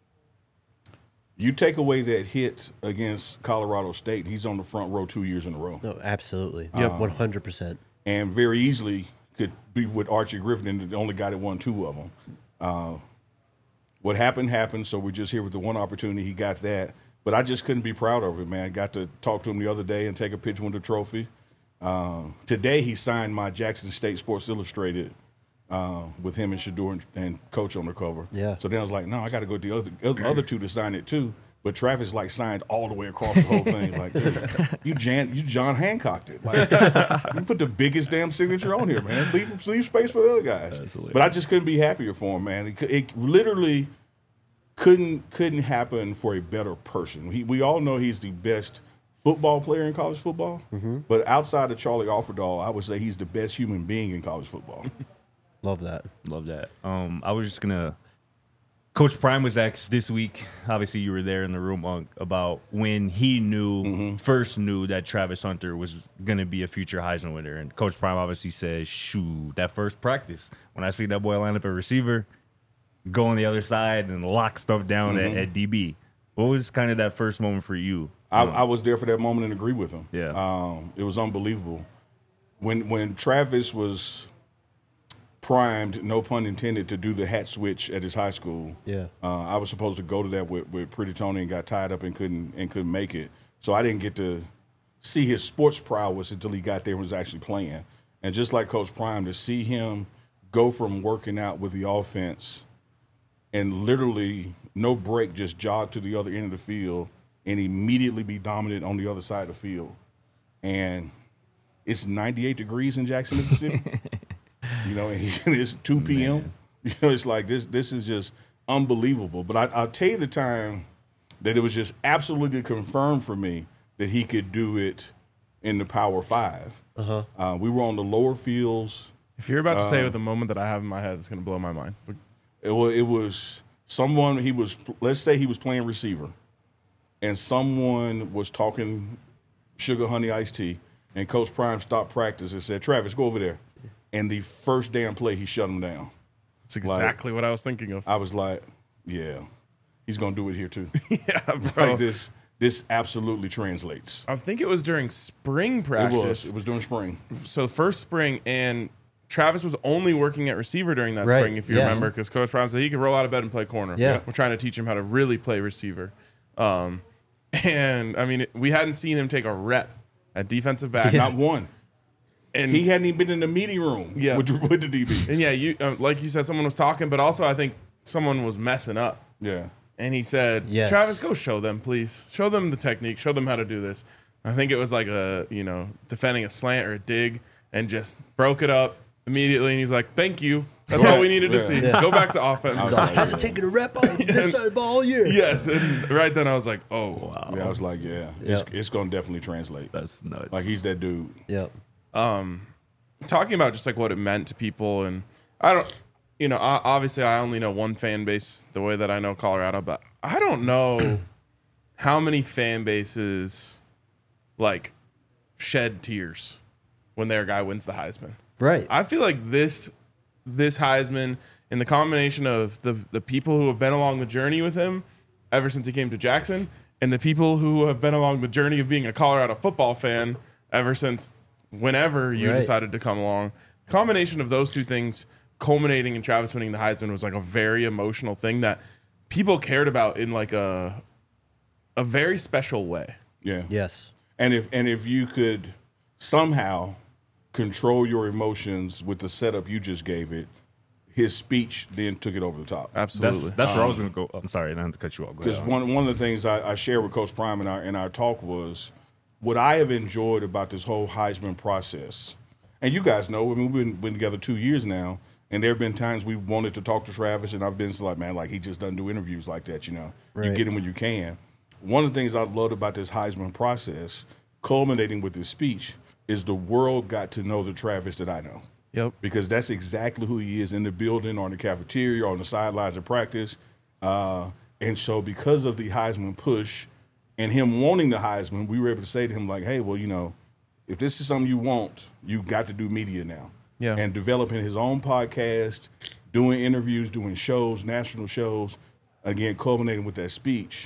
you take away that hit against Colorado State, he's on the front row 2 years in a row. No, absolutely. Yep, 100%. And very easily could be with Archie Griffin, the only guy that won 2 of them. What happened, so we're just here with the one opportunity. He got that. But I just couldn't be proud of it, man. Got to talk to him the other day and take a picture with the trophy. Today he signed my Jackson State Sports Illustrated with him and Shedeur and Coach on the cover. Yeah. So then I was like, no, I got to go to the other 2 to sign it too. But Travis signed all the way across the whole thing. Like, dude, you John Hancocked it. Like, you put the biggest damn signature on here, man. Leave space for the other guys. Absolutely. But I just couldn't be happier for him, man. It literally couldn't happen for a better person. We all know he's the best football player in college football, but outside of Charlie Offerdahl, I would say he's the best human being in college football. Love that. Love that. I was just gonna. Coach Prime was asked this week. Obviously, you were there in the room about when he first knew that Travis Hunter was gonna be a future Heisman winner, and Coach Prime obviously says, "Shoot, that first practice when I see that boy line up at receiver, go on the other side and lock stuff down at DB." What was kind of that first moment for you? I was there for that moment and agree with him. Yeah, it was unbelievable when Travis was primed, no pun intended, to do the hat switch at his high school. Yeah, I was supposed to go to that with Pretty Tony and got tied up and couldn't make it. So I didn't get to see his sports prowess until he got there and was actually playing. And just like Coach Prime, to see him go from working out with the offense and literally no break, just jog to the other end of the field and immediately be dominant on the other side of the field. And it's 98 degrees in Jackson, Mississippi. You know, and it's 2 p.m. Man. You know, it's like this is just unbelievable. But I'll tell you the time that it was just absolutely confirmed for me that he could do it in the Power 5. We were on the lower fields. If you're about to say with the moment that I have in my head, it's going to blow my mind. It was someone, let's say he was playing receiver, and someone was talking sugar, honey, iced tea, and Coach Prime stopped practice and said, "Travis, go over there." And the first damn play, he shut him down. That's exactly what I was thinking of. I was like, yeah, he's going to do it here too. Yeah, bro. Like this absolutely translates. I think it was during spring practice. It was during spring. So first spring, and Travis was only working at receiver during that spring, if you remember, because Coach Prime said he could roll out of bed and play corner. Yeah. We're trying to teach him how to really play receiver. And, I mean, we hadn't seen him take a rep at defensive back. Not one. And he hadn't even been in the meeting room with the DBs. And, yeah, you like you said, someone was talking, but also I think someone was messing up. Yeah. And he said, Travis, go show them, please. Show them the technique. Show them how to do this. I think it was like defending a slant or a dig, and just broke it up immediately. And he's like, thank you. That's all we needed to see. Yeah. Go back to offense. Hasn't taken a rep on this side of the ball all year. Yes. And right then I was like, oh, wow. Yeah, I was like, it's going to definitely translate. That's nuts. Like, he's that dude. Yep. Talking about just like what it meant to people, and I don't, obviously I only know one fan base the way that I know Colorado, but I don't know how many fan bases like shed tears when their guy wins the Heisman. Right. I feel like this Heisman, and the combination of the people who have been along the journey with him ever since he came to Jackson, and the people who have been along the journey of being a Colorado football fan ever since whenever you decided to come along. The combination of those two things culminating in Travis winning the Heisman was like a very emotional thing that people cared about in like a very special way. Yeah. Yes. And if you could somehow control your emotions with the setup you just gave it, his speech then took it over the top. Absolutely. That's where I was going to go. I'm sorry, I didn't have to cut you off. Because one of the things I shared with Coach Prime in our talk was what I have enjoyed about this whole Heisman process. And you guys know, I mean, we've been together 2 years now, and there have been times we wanted to talk to Travis, and I've been like, man, like he just doesn't do interviews like that, Right. You get him when you can. One of the things I loved about this Heisman process, culminating with this speech, is the world got to know the Travis that I know. Yep. Because that's exactly who he is in the building, or in the cafeteria, or on the sidelines of practice. And so because of the Heisman push and him wanting the Heisman, we were able to say to him, like, hey, well, if this is something you want, you got to do media now. Yeah. And developing his own podcast, doing interviews, doing shows, national shows, again, culminating with that speech.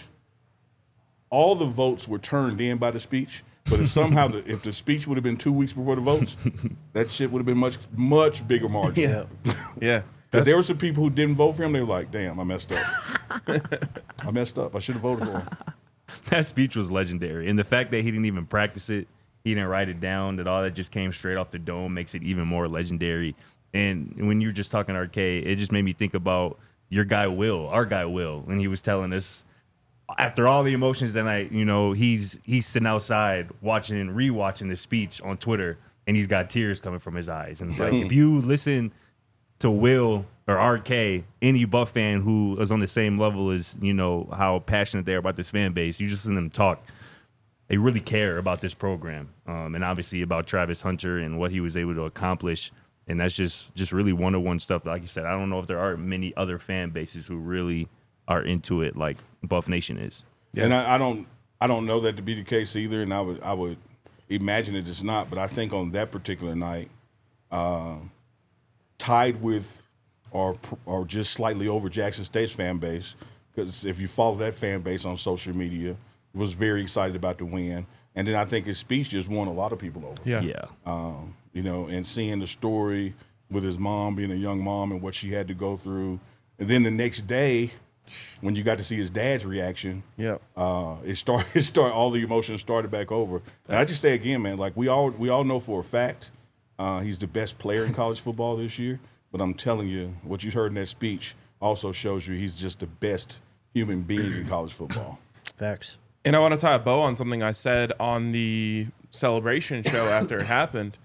All the votes were turned in by the speech. But if somehow if the speech would have been 2 weeks before the votes, that shit would have been much, much bigger margin. Yeah. Yeah. Because there were some people who didn't vote for him. They were like, damn, I messed up. I messed up. I should have voted for him. That speech was legendary. And the fact that he didn't even practice it, he didn't write it down, that all that just came straight off the dome makes it even more legendary. And when you were just talking arcade, it just made me think about our guy Will, and he was telling us, after all the emotions that night, he's sitting outside watching and rewatching this speech on Twitter, and he's got tears coming from his eyes. And it's like, if you listen to Will or RK, any Buff fan who is on the same level as, you know, how passionate they are about this fan base, you just listen to them talk. They really care about this program, and obviously about Travis Hunter and what he was able to accomplish. And that's just really one-on-one stuff. Like you said, I don't know if there are many other fan bases who really are into it like Buff Nation is. Yeah. And I don't know that to be the case either, and I would imagine it's not. But I think on that particular night, tied with or just slightly over Jackson State's fan base, because if you follow that fan base on social media, was very excited about the win. And then I think his speech just won a lot of people over. Yeah. You know, and seeing the story with his mom being a young mom and what she had to go through. And then the next day, when you got to see his dad's reaction, it started all the emotions started back over. And I just say again, man, like we all know for a fact he's the best player in college football this year. But I'm telling you, what you heard in that speech also shows you he's just the best human being in college football. Facts. And I want to tie a bow on something I said on the celebration show after it happened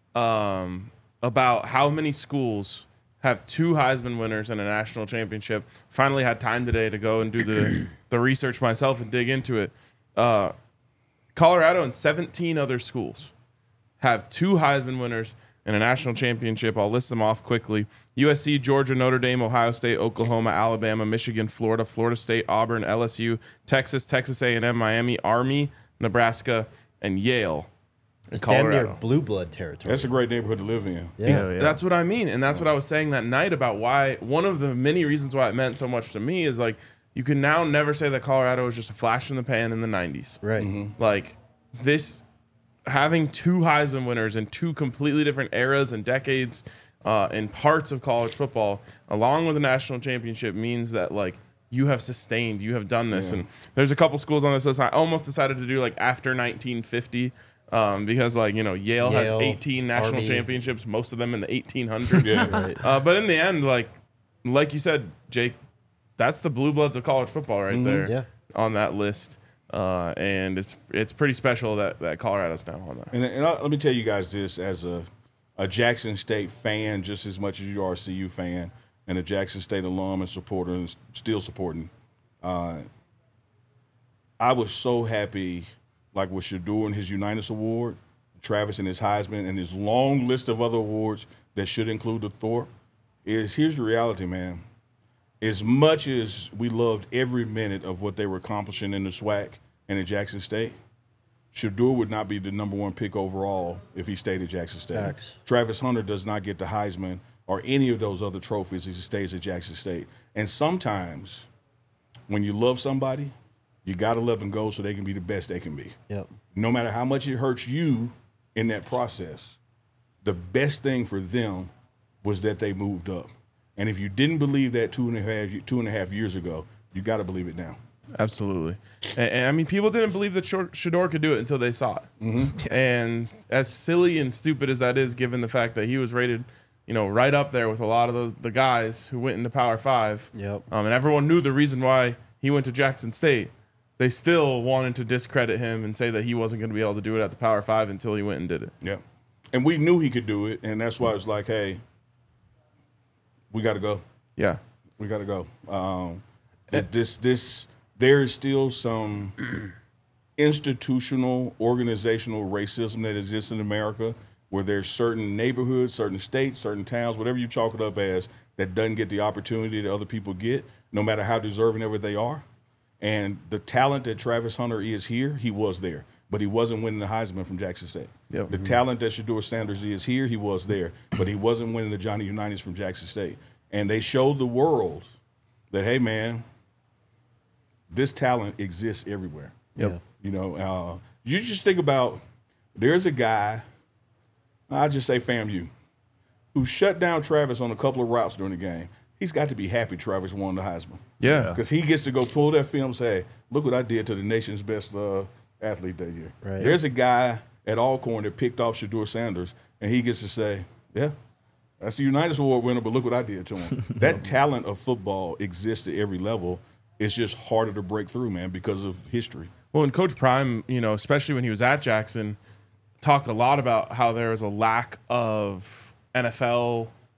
about how many schools have 2 Heisman winners and a national championship. Finally had time today to go and do the research myself and dig into it. Colorado and 17 other schools have 2 Heisman winners and a national championship. I'll list them off quickly. USC, Georgia, Notre Dame, Ohio State, Oklahoma, Alabama, Michigan, Florida, Florida State, Auburn, LSU, Texas, Texas A&M, Miami, Army, Nebraska, and Yale. It's damn near blue blood territory. That's a great neighborhood to live in. Yeah. That's what I mean. And that's what I was saying that night about why one of the many reasons why it meant so much to me is like you can now never say that Colorado was just a flash in the pan in the 90s. Right. Mm-hmm. Like this having 2 Heisman winners in 2 completely different eras and decades in parts of college football, along with a national championship, means that like you have sustained, you have done this. And there's a couple schools on this list I almost decided to do like after 1950 because like, you know, Yale has 18 national championships, most of them in the 1800s. Yeah. But in the end, like you said, Jake, that's the blue bloods of college football right there on that list. And it's pretty special that Colorado's now on that. And let me tell you guys this, as a Jackson State fan, just as much as you are a CU fan, and a Jackson State alum and supporter, and still supporting. I was so happy, like with Shedeur and his Unitas Award, Travis and his Heisman, and his long list of other awards that should include the Thorpe. Here's the reality, man. As much as we loved every minute of what they were accomplishing in the SWAC and at Jackson State, Shedeur would not be the number 1 pick overall if he stayed at Jackson State. Facts. Travis Hunter does not get the Heisman or any of those other trophies if he stays at Jackson State. And sometimes when you love somebody, you got to let them go so they can be the best they can be. Yep. No matter how much it hurts you in that process, the best thing for them was that they moved up. And if you didn't believe that 2.5 years ago, you got to believe it now. Absolutely. And I mean, people didn't believe that Shedeur could do it until they saw it. Mm-hmm. And as silly and stupid as that is, given the fact that he was rated, you know, right up there with a lot of the guys who went into Power 5. Yep. And everyone knew the reason why he went to Jackson State. They still wanted to discredit him and say that he wasn't going to be able to do it at the Power 5 until he went and did it. Yeah. And we knew he could do it, and that's why it's like, hey, we got to go. Yeah. We got to go. There is still some institutional, organizational racism that exists in America where there's certain neighborhoods, certain states, certain towns, whatever you chalk it up as, that doesn't get the opportunity that other people get, no matter how deserving ever they are. And the talent that Travis Hunter is here, he was there. But he wasn't winning the Heisman from Jackson State. Yep. The talent that Shedeur Sanders is here, he was there. But he wasn't winning the Johnny Unitas from Jackson State. And they showed the world that, hey, man, this talent exists everywhere. Yep. You know, you just think about, there's a guy, I'll just say FAMU, who shut down Travis on a couple of routes during the game. He's got to be happy Travis won the Heisman. Yeah. Because he gets to go pull that film and say, look what I did to the nation's best athlete that year. Right. There's a guy at Alcorn that picked off Shedeur Sanders, and he gets to say, yeah, that's the Unitas Award winner, but look what I did to him. That talent of football exists at every level. It's just harder to break through, man, because of history. Well, and Coach Prime, you know, especially when he was at Jackson, talked a lot about how there was a lack of NFL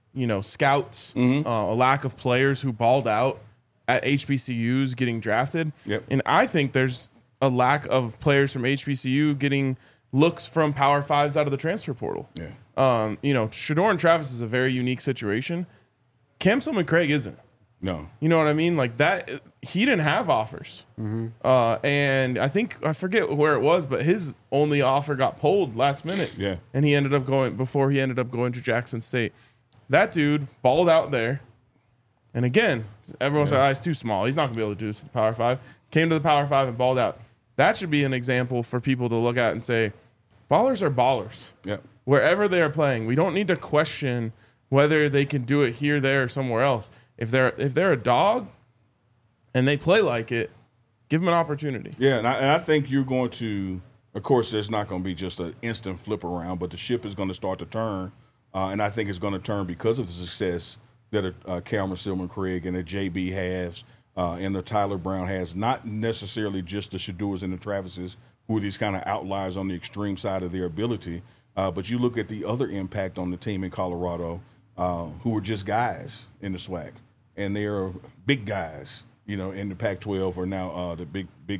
scouts, a lack of players who balled out at HBCUs getting drafted. Yep. And I think there's a lack of players from HBCU getting looks from Power Fives out of the transfer portal. Yeah. Shedeur and Travis is a very unique situation. Cam Sillman-Craig isn't. No. You know what I mean? Like that, he didn't have offers. And I forget where it was, but his only offer got pulled last minute. Yeah. And he ended up going to Jackson State. That dude balled out there. And again, everyone said, he's too small. He's not going to be able to do this to the Power Five. Came to the Power Five and balled out. That should be an example for people to look at and say, ballers are ballers. Yep. Wherever they are playing, we don't need to question whether they can do it here, there, or somewhere else. If they're a dog and they play like it, give them an opportunity. Yeah, and I think you're going to, of course, there's not going to be just an instant flip around, but the ship is going to start to turn, and I think it's going to turn because of the success that Cameron Sillman-Craig and a JB has and the Tyler Brown has, not necessarily just the Shedeurs and the Travises, who are these kind of outliers on the extreme side of their ability, but you look at the other impact on the team in Colorado, who were just guys in the SWAC. And they are big guys, in the Pac-12 or now the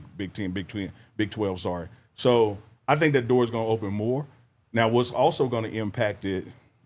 Big 12. Sorry. So I think that door is going to open more. Now, what's also going to impact it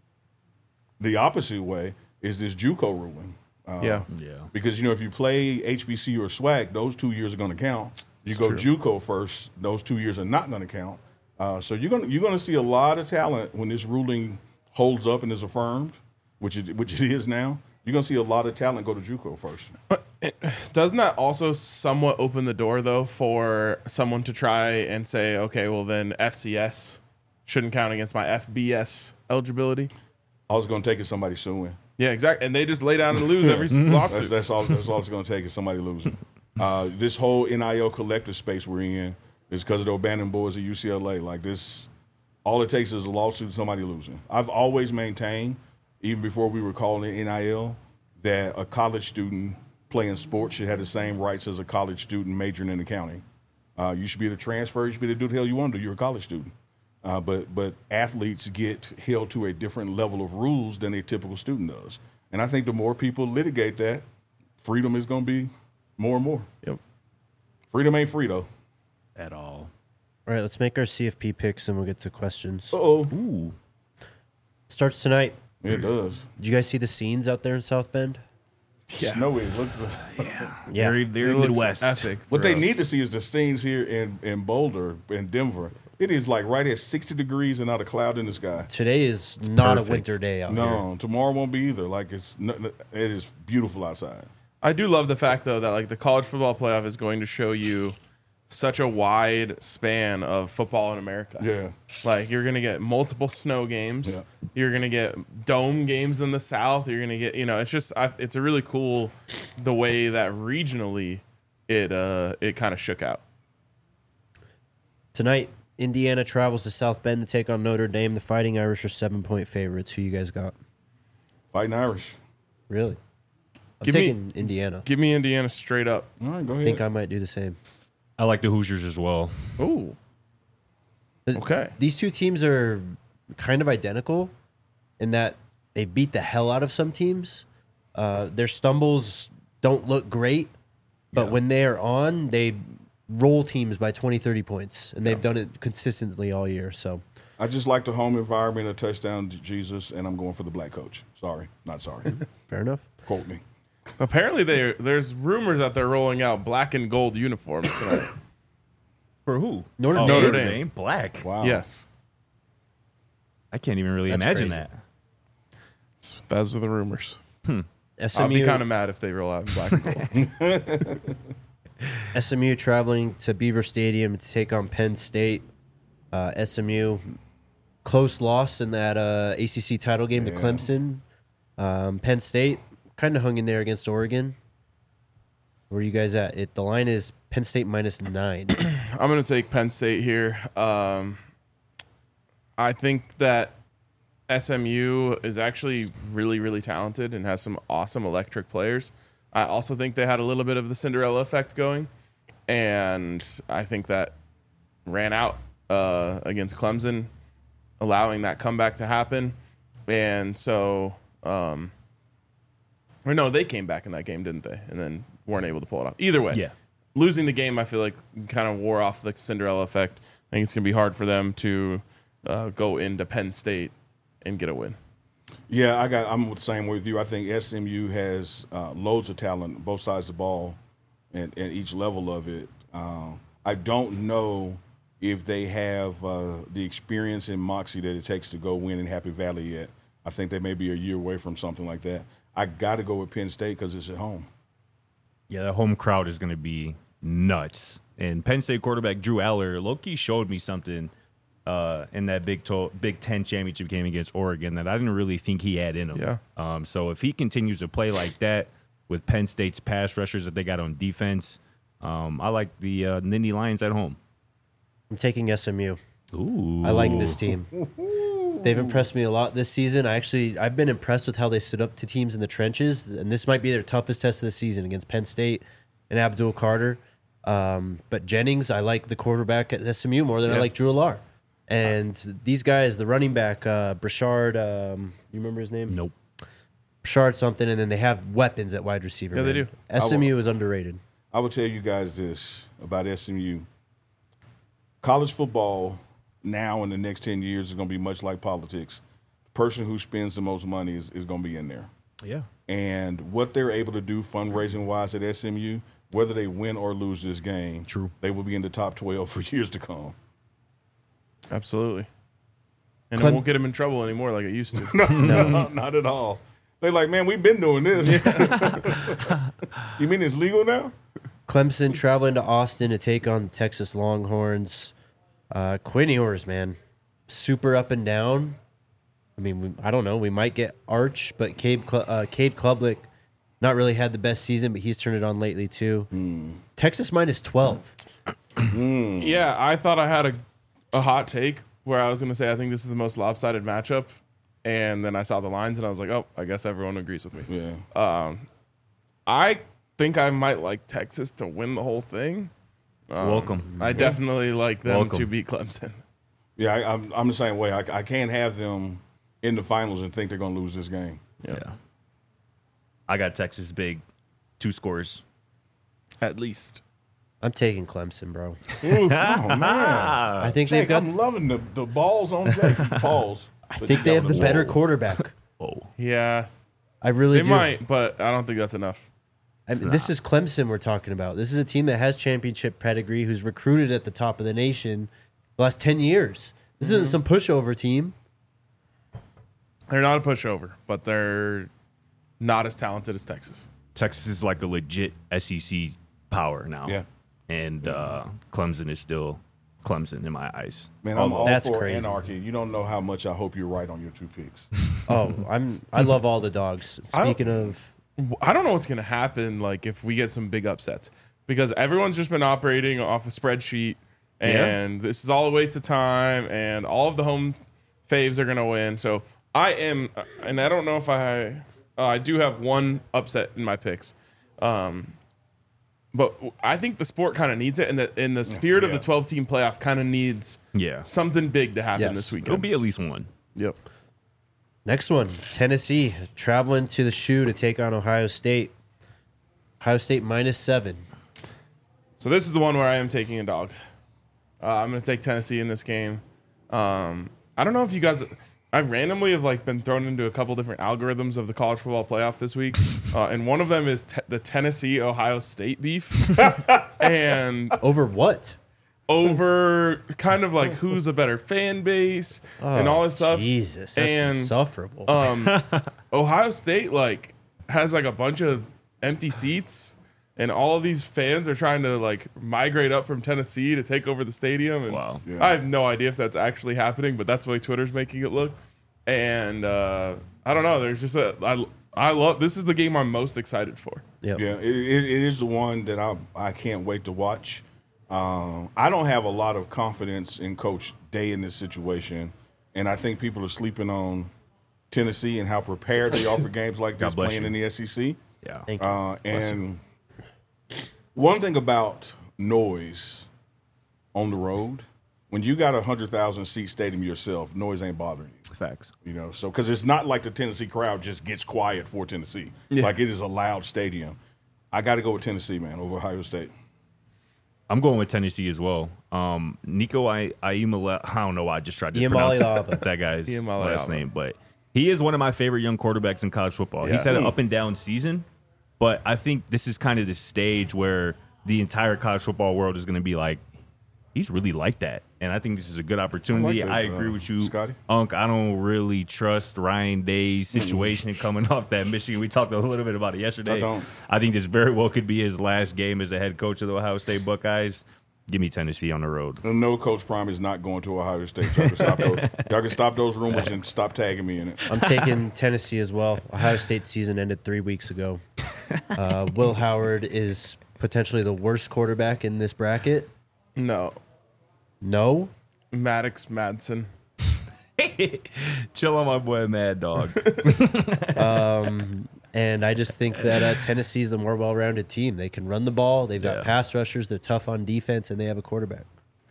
the opposite way is this JUCO ruling. Because if you play HBCU or SWAC, those 2 years are going to count. You go JUCO first; those 2 years are not going to count. So you're going to see a lot of talent when this ruling holds up and is affirmed, which it is now. You're going to see a lot of talent go to JUCO first. Doesn't that also somewhat open the door, though, for someone to try and say, okay, well, then FCS shouldn't count against my FBS eligibility? All it's going to take is somebody suing. Yeah, exactly. And they just lay down and lose every lawsuit. That's all it's going to take is somebody losing. This whole NIL collective space we're in is because of the abandoned boys at UCLA. Like this, all it takes is a lawsuit, somebody losing. I've always maintained, even before we were calling it NIL, that a college student playing sports should have the same rights as a college student majoring in accounting. You should be able to transfer. You should be able to do the hell you want to do. You're a college student. But athletes get held to a different level of rules than a typical student does. And I think the more people litigate that, freedom is going to be more and more. Yep. Freedom ain't free, though. At all. All right, let's make our CFP picks and we'll get to questions. Uh-oh. Starts tonight. It does. Did you guys see the scenes out there in South Bend? Yeah. Snowy. Yeah. Very Midwest. Epic. What they need to see is the scenes here in Boulder, in Denver. It is like right at 60 degrees and not a cloud in the sky. Today is not perfect. a winter day out here. No, tomorrow won't be either. Like it is beautiful outside. I do love the fact, though, that like the college football playoff is going to show you such a wide span of football in America. Yeah. Like you're going to get multiple snow games. Yeah. You're going to get dome games in the South. You're going to get, it's just, it's a really cool, the way that regionally it kind of shook out. Tonight, Indiana travels to South Bend to take on Notre Dame. The Fighting Irish are 7-point favorites. Who you guys got? Fighting Irish. Really? I'm Give me- taking Indiana. Give me Indiana straight up. All right, go I ahead. think I might do the same. I like the Hoosiers as well. Ooh. Okay. These two teams are kind of identical in that they beat the hell out of some teams. Their stumbles don't look great, but when they are on, they roll teams by 20, 30 points, and they've done it consistently all year. So I just like the home environment, a touchdown to Jesus, and I'm going for the black coach. Sorry, not sorry. fair enough. Quote me. Apparently, there's rumors that they're rolling out black and gold uniforms tonight. For who? Notre Dame. Black. Wow. Yes. I can't even really That's imagine crazy. that. Those are the rumors. I'll be SMU, kind of mad if they roll out in black and gold. SMU traveling to Beaver Stadium to take on Penn State. SMU, close loss in that ACC title game to Clemson. Penn State kind of hung in there against Oregon. Where are you guys at? The line is Penn State -9. I'm going to take Penn State here. I think that SMU is actually really, really talented and has some awesome electric players. I also think they had a little bit of the Cinderella effect going, and I think that ran out against Clemson, allowing that comeback to happen. And so Or no, they came back in that game, didn't they? And then weren't able to pull it off. Either way, Yeah. losing the game, I feel like kind of wore off the Cinderella effect. I think it's going to be hard for them to go into Penn State and get a win. Yeah, I'm the same with you. I think SMU has loads of talent on both sides of the ball and each level of it. I don't know if they have the experience and moxie that it takes to go win in Happy Valley yet. I think they may be a year away from something like that. I got to go with Penn State because it's at home. Yeah, the home crowd is going to be nuts. And Penn State quarterback Drew Aller, low-key showed me something in that Big Ten championship game against Oregon that I didn't really think he had in him. Yeah. So if he continues to play like that with Penn State's pass rushers that they got on defense, I like the Nittany Lions at home. I'm taking SMU. Ooh. I like this team. They've impressed me a lot this season. I've been impressed with how they stood up to teams in the trenches, and this might be their toughest test of the season against Penn State and Abdul Carter. But Jennings, I like the quarterback at SMU more than I like Drew Allar. And these guys, the running back, Brashard, you remember his name? Nope. Brashard something, and then they have weapons at wide receiver. Yeah, they man. do. SMU is underrated. I will tell you guys this about SMU. College football now in the next 10 years is going to be much like politics. The person who spends the most money is going to be in there. Yeah. And what they're able to do fundraising-wise at SMU, whether they win or lose this game, True. they will be in the top 12 for years to come. Absolutely. And it won't get them in trouble anymore like it used to. No, not at all. They're like, man, we've been doing this. You mean it's legal now? Clemson traveling to Austin to take on the Texas Longhorns. Quinn Ewers, man, super up and down. I mean, I don't know. We might get Arch, but Cade Klubnik not really had the best season, but he's turned it on lately too. Texas minus 12. Yeah, I thought I had a hot take where I was going to say I think this is the most lopsided matchup. And then I saw the lines and I was like, oh, I guess everyone agrees with me. Yeah. I think I might like Texas to win the whole thing. Welcome. I definitely like them Welcome. to beat Clemson. Yeah, I'm the same way. I can't have them in the finals and think they're going to lose this game. Yeah. I got Texas big, 2 scores. At least. I'm taking Clemson, bro. Oh, man. I think Jake, they've got. I'm loving the balls on Jake. Balls. I think they have the better quarterback. Oh. Yeah, I really they do. might, but I don't think that's enough. I mean, this is Clemson we're talking about. This is a team that has championship pedigree, who's recruited at the top of the nation the last 10 years. This isn't some pushover team. They're not a pushover, but they're not as talented as Texas. Texas is like a legit SEC power now. Yeah. And Clemson is still Clemson in my eyes. Man, I'm all That's for crazy. anarchy. You don't know how much I hope you're right on your 2 picks. Oh, I love all the dogs. Speaking of, I don't know what's going to happen like if we get some big upsets because everyone's just been operating off a spreadsheet and this is all a waste of time and all of the home faves are going to win. So I am, and I don't know if I do have one upset in my picks. But I think the sport kind of needs it, and in the spirit of the 12-team playoff kind of needs something big to happen this weekend. It'll be at least one. Yep. next one, Tennessee traveling to the Shoe to take on Ohio State. Ohio State -7. So this is the one where I am taking a dog. I'm going to take Tennessee in this game. I don't know if you guys... I randomly have been thrown into a couple different algorithms of the college football playoff this week, and one of them is the Tennessee-Ohio State beef, and over what? Over kind of who's a better fan base and all this stuff. Jesus, that's insufferable. Ohio State has a bunch of empty seats, and all of these fans are trying to migrate up from Tennessee to take over the stadium. And wow. I have no idea if that's actually happening, but that's the way Twitter's making it look. And I don't know. There's just I love this is the game I'm most excited for. Yep. Yeah, it is the one that I can't wait to watch. I don't have a lot of confidence in Coach Day in this situation, and I think people are sleeping on Tennessee and how prepared they are for games like this playing in the SEC. Yeah. Thank you. And one thing about noise on the road, when you got 100,000 seat stadium yourself, noise ain't bothering you. Facts. So because it's not like the Tennessee crowd just gets quiet for Tennessee. Yeah. Like it is a loud stadium. I got to go with Tennessee, man, over Ohio State. I'm going with Tennessee as well. Nico Iamaleava, I don't know why I just tried to pronounce that guy's last name, but he is one of my favorite young quarterbacks in college football. Yeah. He's had an up and down season, but I think this is kind of the stage where the entire college football world is going to be like, he's really like that. And I think this is a good opportunity. I agree with you, Scotty. Unc. I don't really trust Ryan Day's situation coming off that Michigan. We talked a little bit about it yesterday. I think this very well could be his last game as a head coach of the Ohio State Buckeyes. Give me Tennessee on the road. And no, Coach Prime is not going to Ohio State. Y'all can stop those rumors and stop tagging me in it. I'm taking Tennessee as well. Ohio State's season ended 3 weeks ago. Will Howard is potentially the worst quarterback in this bracket. No. Maddox Madsen. Chill on my boy Mad Dog. And I just think that Tennessee's a more well-rounded team. They can run the ball. They've got pass rushers. They're tough on defense, and they have a quarterback.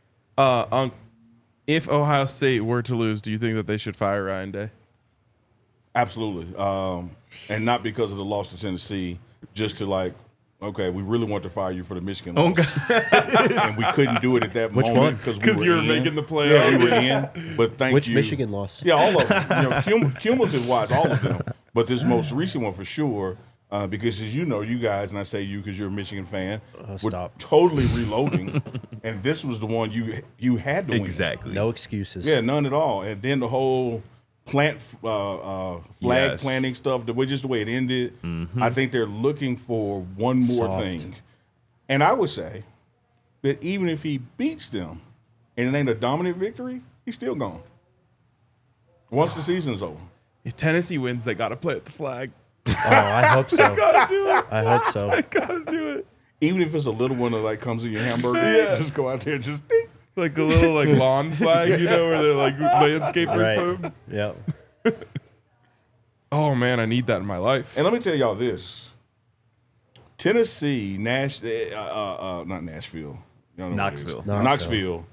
If Ohio State were to lose, do you think that they should fire Ryan Day? Absolutely. And not because of the loss to Tennessee, just to okay, we really want to fire you for the Michigan loss. And we couldn't do it at that moment because you were making the playoffs. Yeah, we were in. But Which Michigan loss? Yeah, all of them. Cumulative-wise, all of them. But this most recent one for sure, because as you know, you guys, and I say you because you're a Michigan fan, we're totally reloading. And this was the one you had to win. Exactly. No excuses. Yeah, none at all. And then the whole flag planting stuff, just the way it ended, I think they're looking for one more thing. And I would say that even if he beats them and it ain't a dominant victory, he's still gone. Once the season's over. If Tennessee wins, they got to play at the flag. Oh, I hope so. I got to do it. I hope so. I got to do it. Even if it's a little one that comes in your hamburger, just go out there and just ding. Like a little lawn flag, where they're landscapers put them. Yeah. Oh man, I need that in my life. And let me tell y'all this: Tennessee, not Nashville, Knoxville.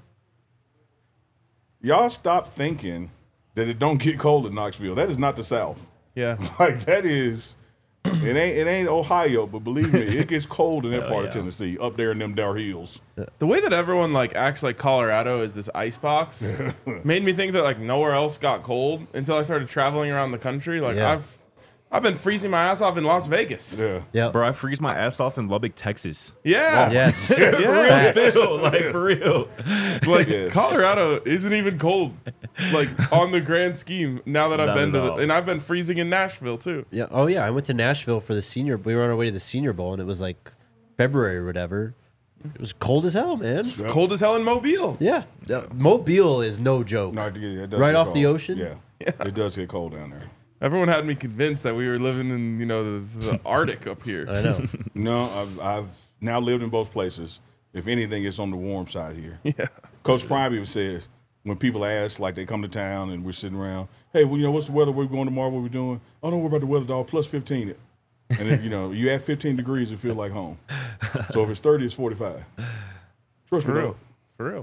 Y'all stop thinking that it don't get cold in Knoxville. That is not the South. Yeah, that is. It ain't Ohio, but believe me, it gets cold in that part of Tennessee, up there in them down hills. The way that everyone acts like Colorado is this ice box made me think that nowhere else got cold until I started traveling around the country. I've been freezing my ass off in Las Vegas. Yeah. Bro, I freeze my ass off in Lubbock, Texas. Yeah. Yes. For real. Colorado isn't even cold, on the grand scheme, now that I've been to and I've been freezing in Nashville, too. Yeah. Oh, yeah. I went to Nashville for we were on our way to the Senior Bowl, and it was February or whatever. It was cold as hell, man. Cold as hell in Mobile. Yeah. Mobile is no joke. No, it does right get off cold. the ocean? Yeah. It does get cold down there. Everyone had me convinced that we were living in, the Arctic up here. I know. No, I've now lived in both places. If anything, it's on the warm side here. Yeah. Coach Prime even says, when people ask, they come to town and we're sitting around, hey, well, what's the weather? Where we going tomorrow? What we doing? Oh, don't worry about the weather, dog. Plus 15. And then, you add 15 degrees, it feel like home. So if it's 30, it's 45. Trust me, dog. For real.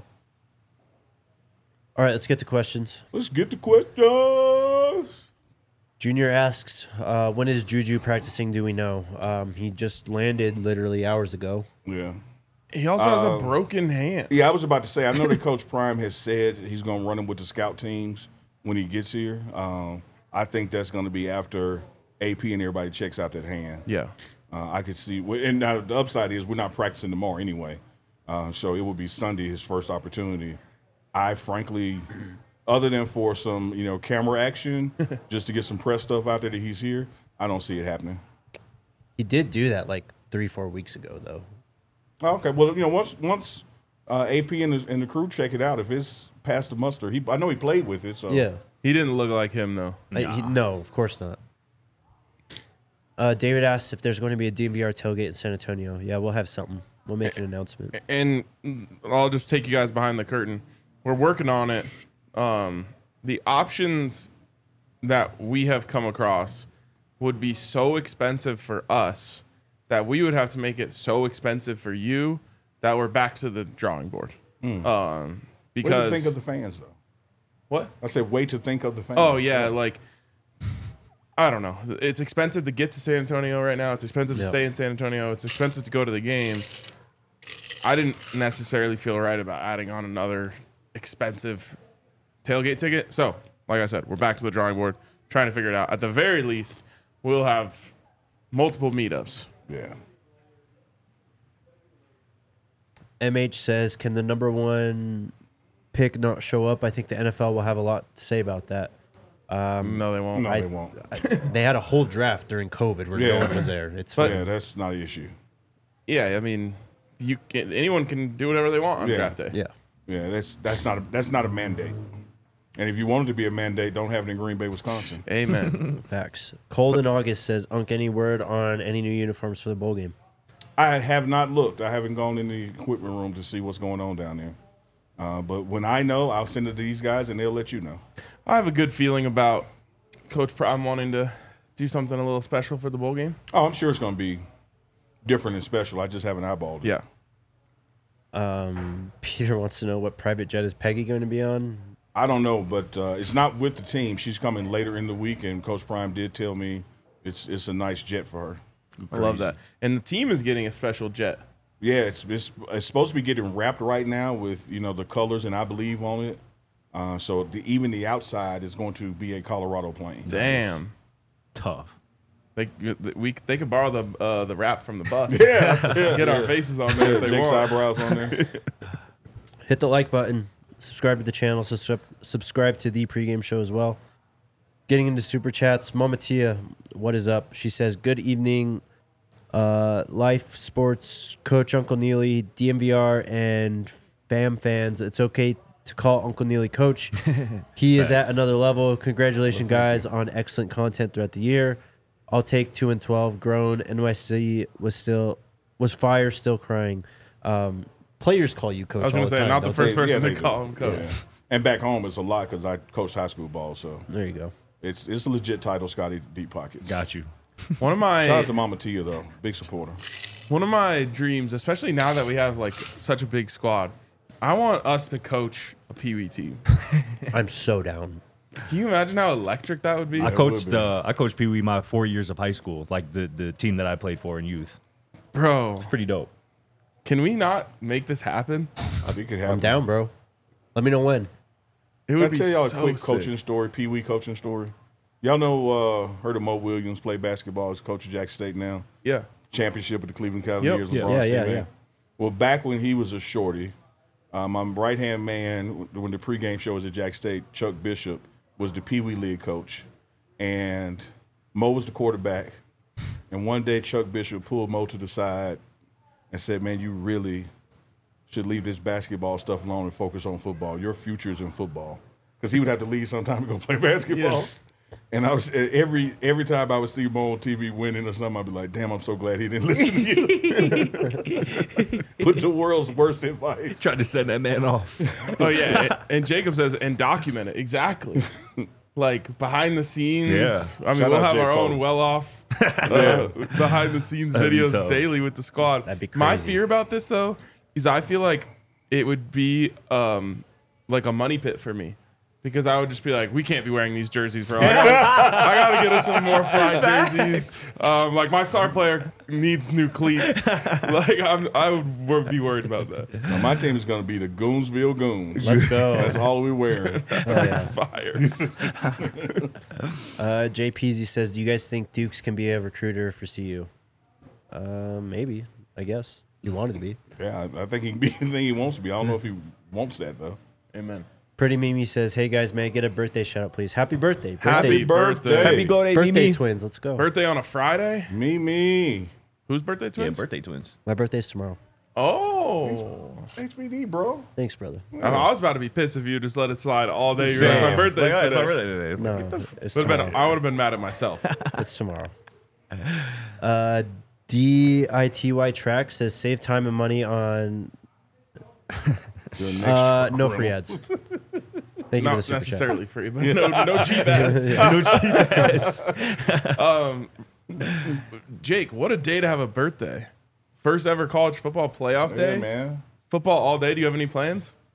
All right, let's get to questions. Let's get to questions. Junior asks, when is Juju practicing? Do we know? He just landed literally hours ago. Yeah. He also has a broken hand. Yeah, I was about to say, I know that Coach Prime has said he's going to run him with the scout teams when he gets here. I think that's going to be after AP and everybody checks out that hand. Yeah. I could see, and now the upside is we're not practicing tomorrow anyway. So it will be Sunday, his first opportunity. I frankly, other than for some, camera action, just to get some press stuff out there that he's here, I don't see it happening. He did do that 3-4 weeks ago, though. Okay, well, once AP and the crew check it out, if it's past the muster, I know he played with it. So yeah, he didn't look like him though. No, of course not. David asks if there's going to be a DNVR tailgate in San Antonio. Yeah, we'll have something. We'll make an announcement. And I'll just take you guys behind the curtain. We're working on it. The options that we have come across would be so expensive for us that we would have to make it so expensive for you that we're back to the drawing board. Because what do you think of the fans, though? What? I said, wait to think of the fans. Oh, yeah, like, I don't know. It's expensive to get to San Antonio right now. It's expensive to stay in San Antonio. It's expensive to go to the game. I didn't necessarily feel right about adding on another expensive tailgate ticket. So, like I said, we're back to the drawing board, trying to figure it out. At the very least, we'll have multiple meetups. Yeah. MH says, can the number one pick not show up? I think the NFL will have a lot to say about that. No, they won't. No, they won't. They had a whole draft during COVID where no one was there. It's fine. Yeah, that's not an issue. Yeah, I mean, anyone can do whatever they want on draft day. Yeah. Yeah, that's not a mandate. And if you want it to be a mandate, don't have it in Green Bay, Wisconsin. Amen. Facts. Cold in August says, Unk, any word on any new uniforms for the bowl game? I have not looked. I haven't gone in the equipment room to see what's going on down there. But when I know, I'll send it to these guys, and they'll let you know. I have a good feeling about Coach Prime wanting to do something a little special for the bowl game. Oh, I'm sure it's going to be different and special. I just haven't eyeballed it. Yeah. Peter wants to know, what private jet is Peggy going to be on? I don't know, but it's not with the team. She's coming later in the week, and Coach Prime did tell me it's a nice jet for her. I love that. And the team is getting a special jet. Yeah, it's supposed to be getting wrapped right now with the colors and I believe on it. So even the outside is going to be a Colorado plane. Damn, Tough. they could borrow the wrap from the bus. Get Our faces on there if they Jake's want. eyebrows on there. Hit the like button. Subscribe to the channel. Subscribe to the pregame show as well. Getting into super chats. Mama Tia, what is up? She says, good evening, Life Sports Coach Uncle Neely, DMVR, and BAM fans. It's okay to call Uncle Neely Coach. He is at another level. Congratulations, guys, on excellent content throughout the year. I'll take 2-12. Grown. NYC was fire, still crying. Players call you Coach. I was going to say, not the first person to call him Coach. Yeah. And back home, it's a lot because I coached high school ball. So there you go. It's a legit title, Scotty Deep Pockets. Got you. One of my Shout out to Mama Tia, though. Big supporter. One of my dreams, especially now that we have like such a big squad, I want us to coach a Pee Wee team. I'm so down. Can you imagine how electric that would be? I coached Pee Wee my 4 years of high school, like the team that I played for in youth. Bro, Pretty dope. can we not make this happen? I think it happens. I'm down, bro. Let me know when. It Can would I be tell y'all so a quick sick. coaching story, Pee Wee coaching story? Y'all know, heard of Mo Williams play basketball as coach of Jackson State now? Yeah. Championship with the Cleveland Cavaliers. Yep. LeBron's Yeah. teammate. Well, back when he was a shorty, my right-hand man, when the pregame show was at Jack State, Chuck Bishop, was the Pee Wee League coach. And Mo was the quarterback. And one day Chuck Bishop pulled Mo to the side and said, man, you really should leave this basketball stuff alone and focus on football. Your future is in football. Because he would have to leave sometime to go play basketball. Yeah. And I was every time I would see Mo on TV winning or something, I'd be like, damn, I'm so glad he didn't listen to you. Put the world's worst advice. Tried to send that man off. Oh yeah. and Jacob says, and document it exactly. Like behind the scenes. Yeah. I mean, Shout we'll out have J. our Cole. own well-off behind the scenes That'd be videos tough. daily with the squad. That'd be My crazy. fear about this though is I feel like it would be like a money pit for me. Because I would just be like, we can't be wearing these jerseys, bro. I gotta get us some more fly jerseys. Like my star player needs new cleats. Like I would be worried about that. Now, my team is going to be the Goonsville Goons. Let's go. That's all we wearing. Fire. Jay Peasy says, do you guys think Dukes can be a recruiter for CU? Maybe, I guess. You wanted to be. Yeah, I think he can be anything he wants to be. I don't know if he wants that, though. Amen. Pretty Mimi says, hey guys, may I get a birthday shout out, please? Happy birthday. Happy birthday. Happy birthday, Birthday Mimi. twins. Let's go. Birthday on a Friday? Me. Whose birthday Yeah, twins? birthday twins. My birthday's tomorrow. Oh. HBD, bro. Thanks, brother. I was about to be pissed if you just let it slide all day. You're Same. like, my birthday's Like, it's today. my birthday today. No, it's I tomorrow. would have been mad at myself. It's tomorrow. DITY Track says, save time and money on no free ads. Thank you for Not the super necessarily free, but no cheap ads. No cheap ads. Jake, what a day to have a birthday. First ever college football playoff day. Yeah, man. Football all day. Do you have any plans?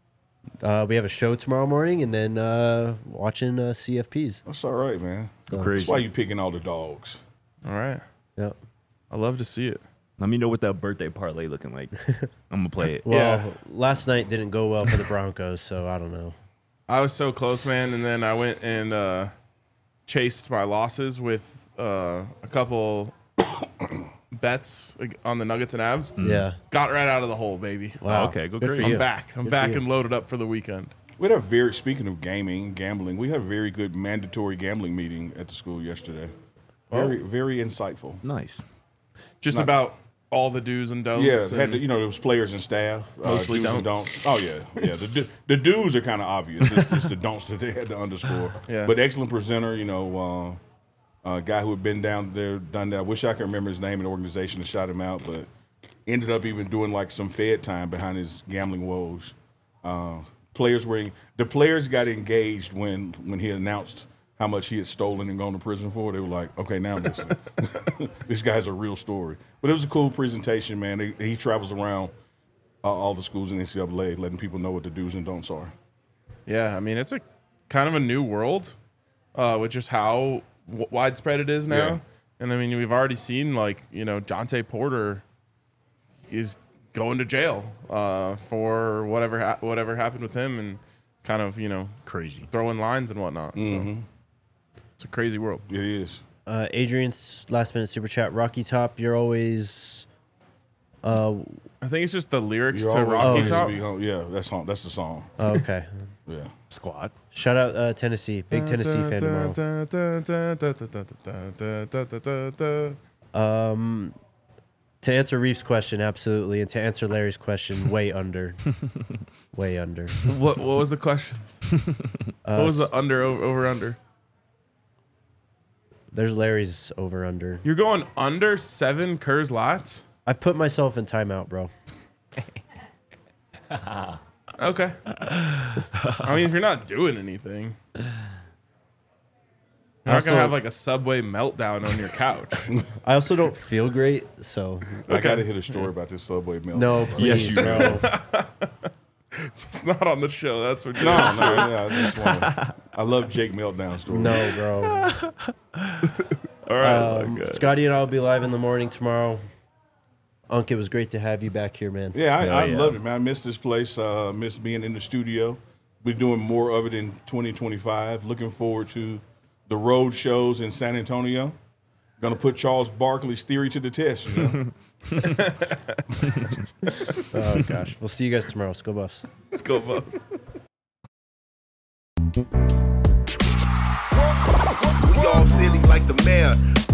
We have a show tomorrow morning, and then watching CFPs. That's all right, man. Crazy. That's why you picking all the dogs. All right. Yep. I love to see it. Let me know what that birthday parlay looking like. I'm gonna play it. Well, last night didn't go well for the Broncos, so I don't know. I was so close, man, and then I went and chased my losses with a couple bets on the Nuggets and Avs. Yeah. Got right out of the hole, baby. Wow. Okay, go Good crazy. for you. I'm back. I'm Good back for you. and loaded up for the weekend. We had speaking of gambling, we had a very good mandatory gambling meeting at the school yesterday. Very insightful. Nice. Just about all the do's and don'ts. Yeah, and there was players and staff. Mostly do's and don'ts. Oh, yeah. The do's are kind of obvious. It's the don'ts that they had to underscore. Yeah. But excellent presenter, a guy who had been down there, done that. I wish I could remember his name in the organization and shout him out, but ended up even doing like some Fed time behind his gambling woes. The players got engaged when he announced how much he had stolen and gone to prison for. They were like, okay, now listen. This guy's a real story. But it was a cool presentation, man. He travels around all the schools in NCAA, letting people know what the do's and don'ts are. Yeah, I mean, it's a kind of a new world with just how widespread it is now. Yeah. And I mean, we've already seen Jonte Porter is going to jail for whatever happened with him and kind of, Crazy. throwing lines and whatnot. Mm-hmm. So it's a crazy world. It is. Adrian's last minute super chat. Rocky Top, you're always. I think it's just the lyrics You're to always Rocky going to Top. be home. Yeah, that's the song. Okay. Yeah. Squad. Shout out Tennessee. Big Tennessee fan tomorrow. To answer Reef's question, absolutely, and to answer Larry's question, way under, way under. What was the question? What was the over under? There's Larry's over under. You're going under 7 Coors Lights? I've put myself in timeout, bro. Okay. I mean, if you're not doing anything, you're not gonna have like a Subway meltdown on your couch. I also don't feel great, so I got to hit a story about this Subway milk. no, please, bro. It's not on the show. That's what. No, I just want I love Jake Meltdown stories. No, bro. All right. Scotty and I will be live in the morning tomorrow. Unc, it was great to have you back here, man. Yeah, I loved it, man. I missed this place. Missed being in the studio. We're doing more of it in 2025. Looking forward to the road shows in San Antonio. Going to put Charles Barkley's theory to the test. Oh, gosh. We'll see you guys tomorrow. Let's go Buffs. Let's go, Buffs. We all silly like the mayor.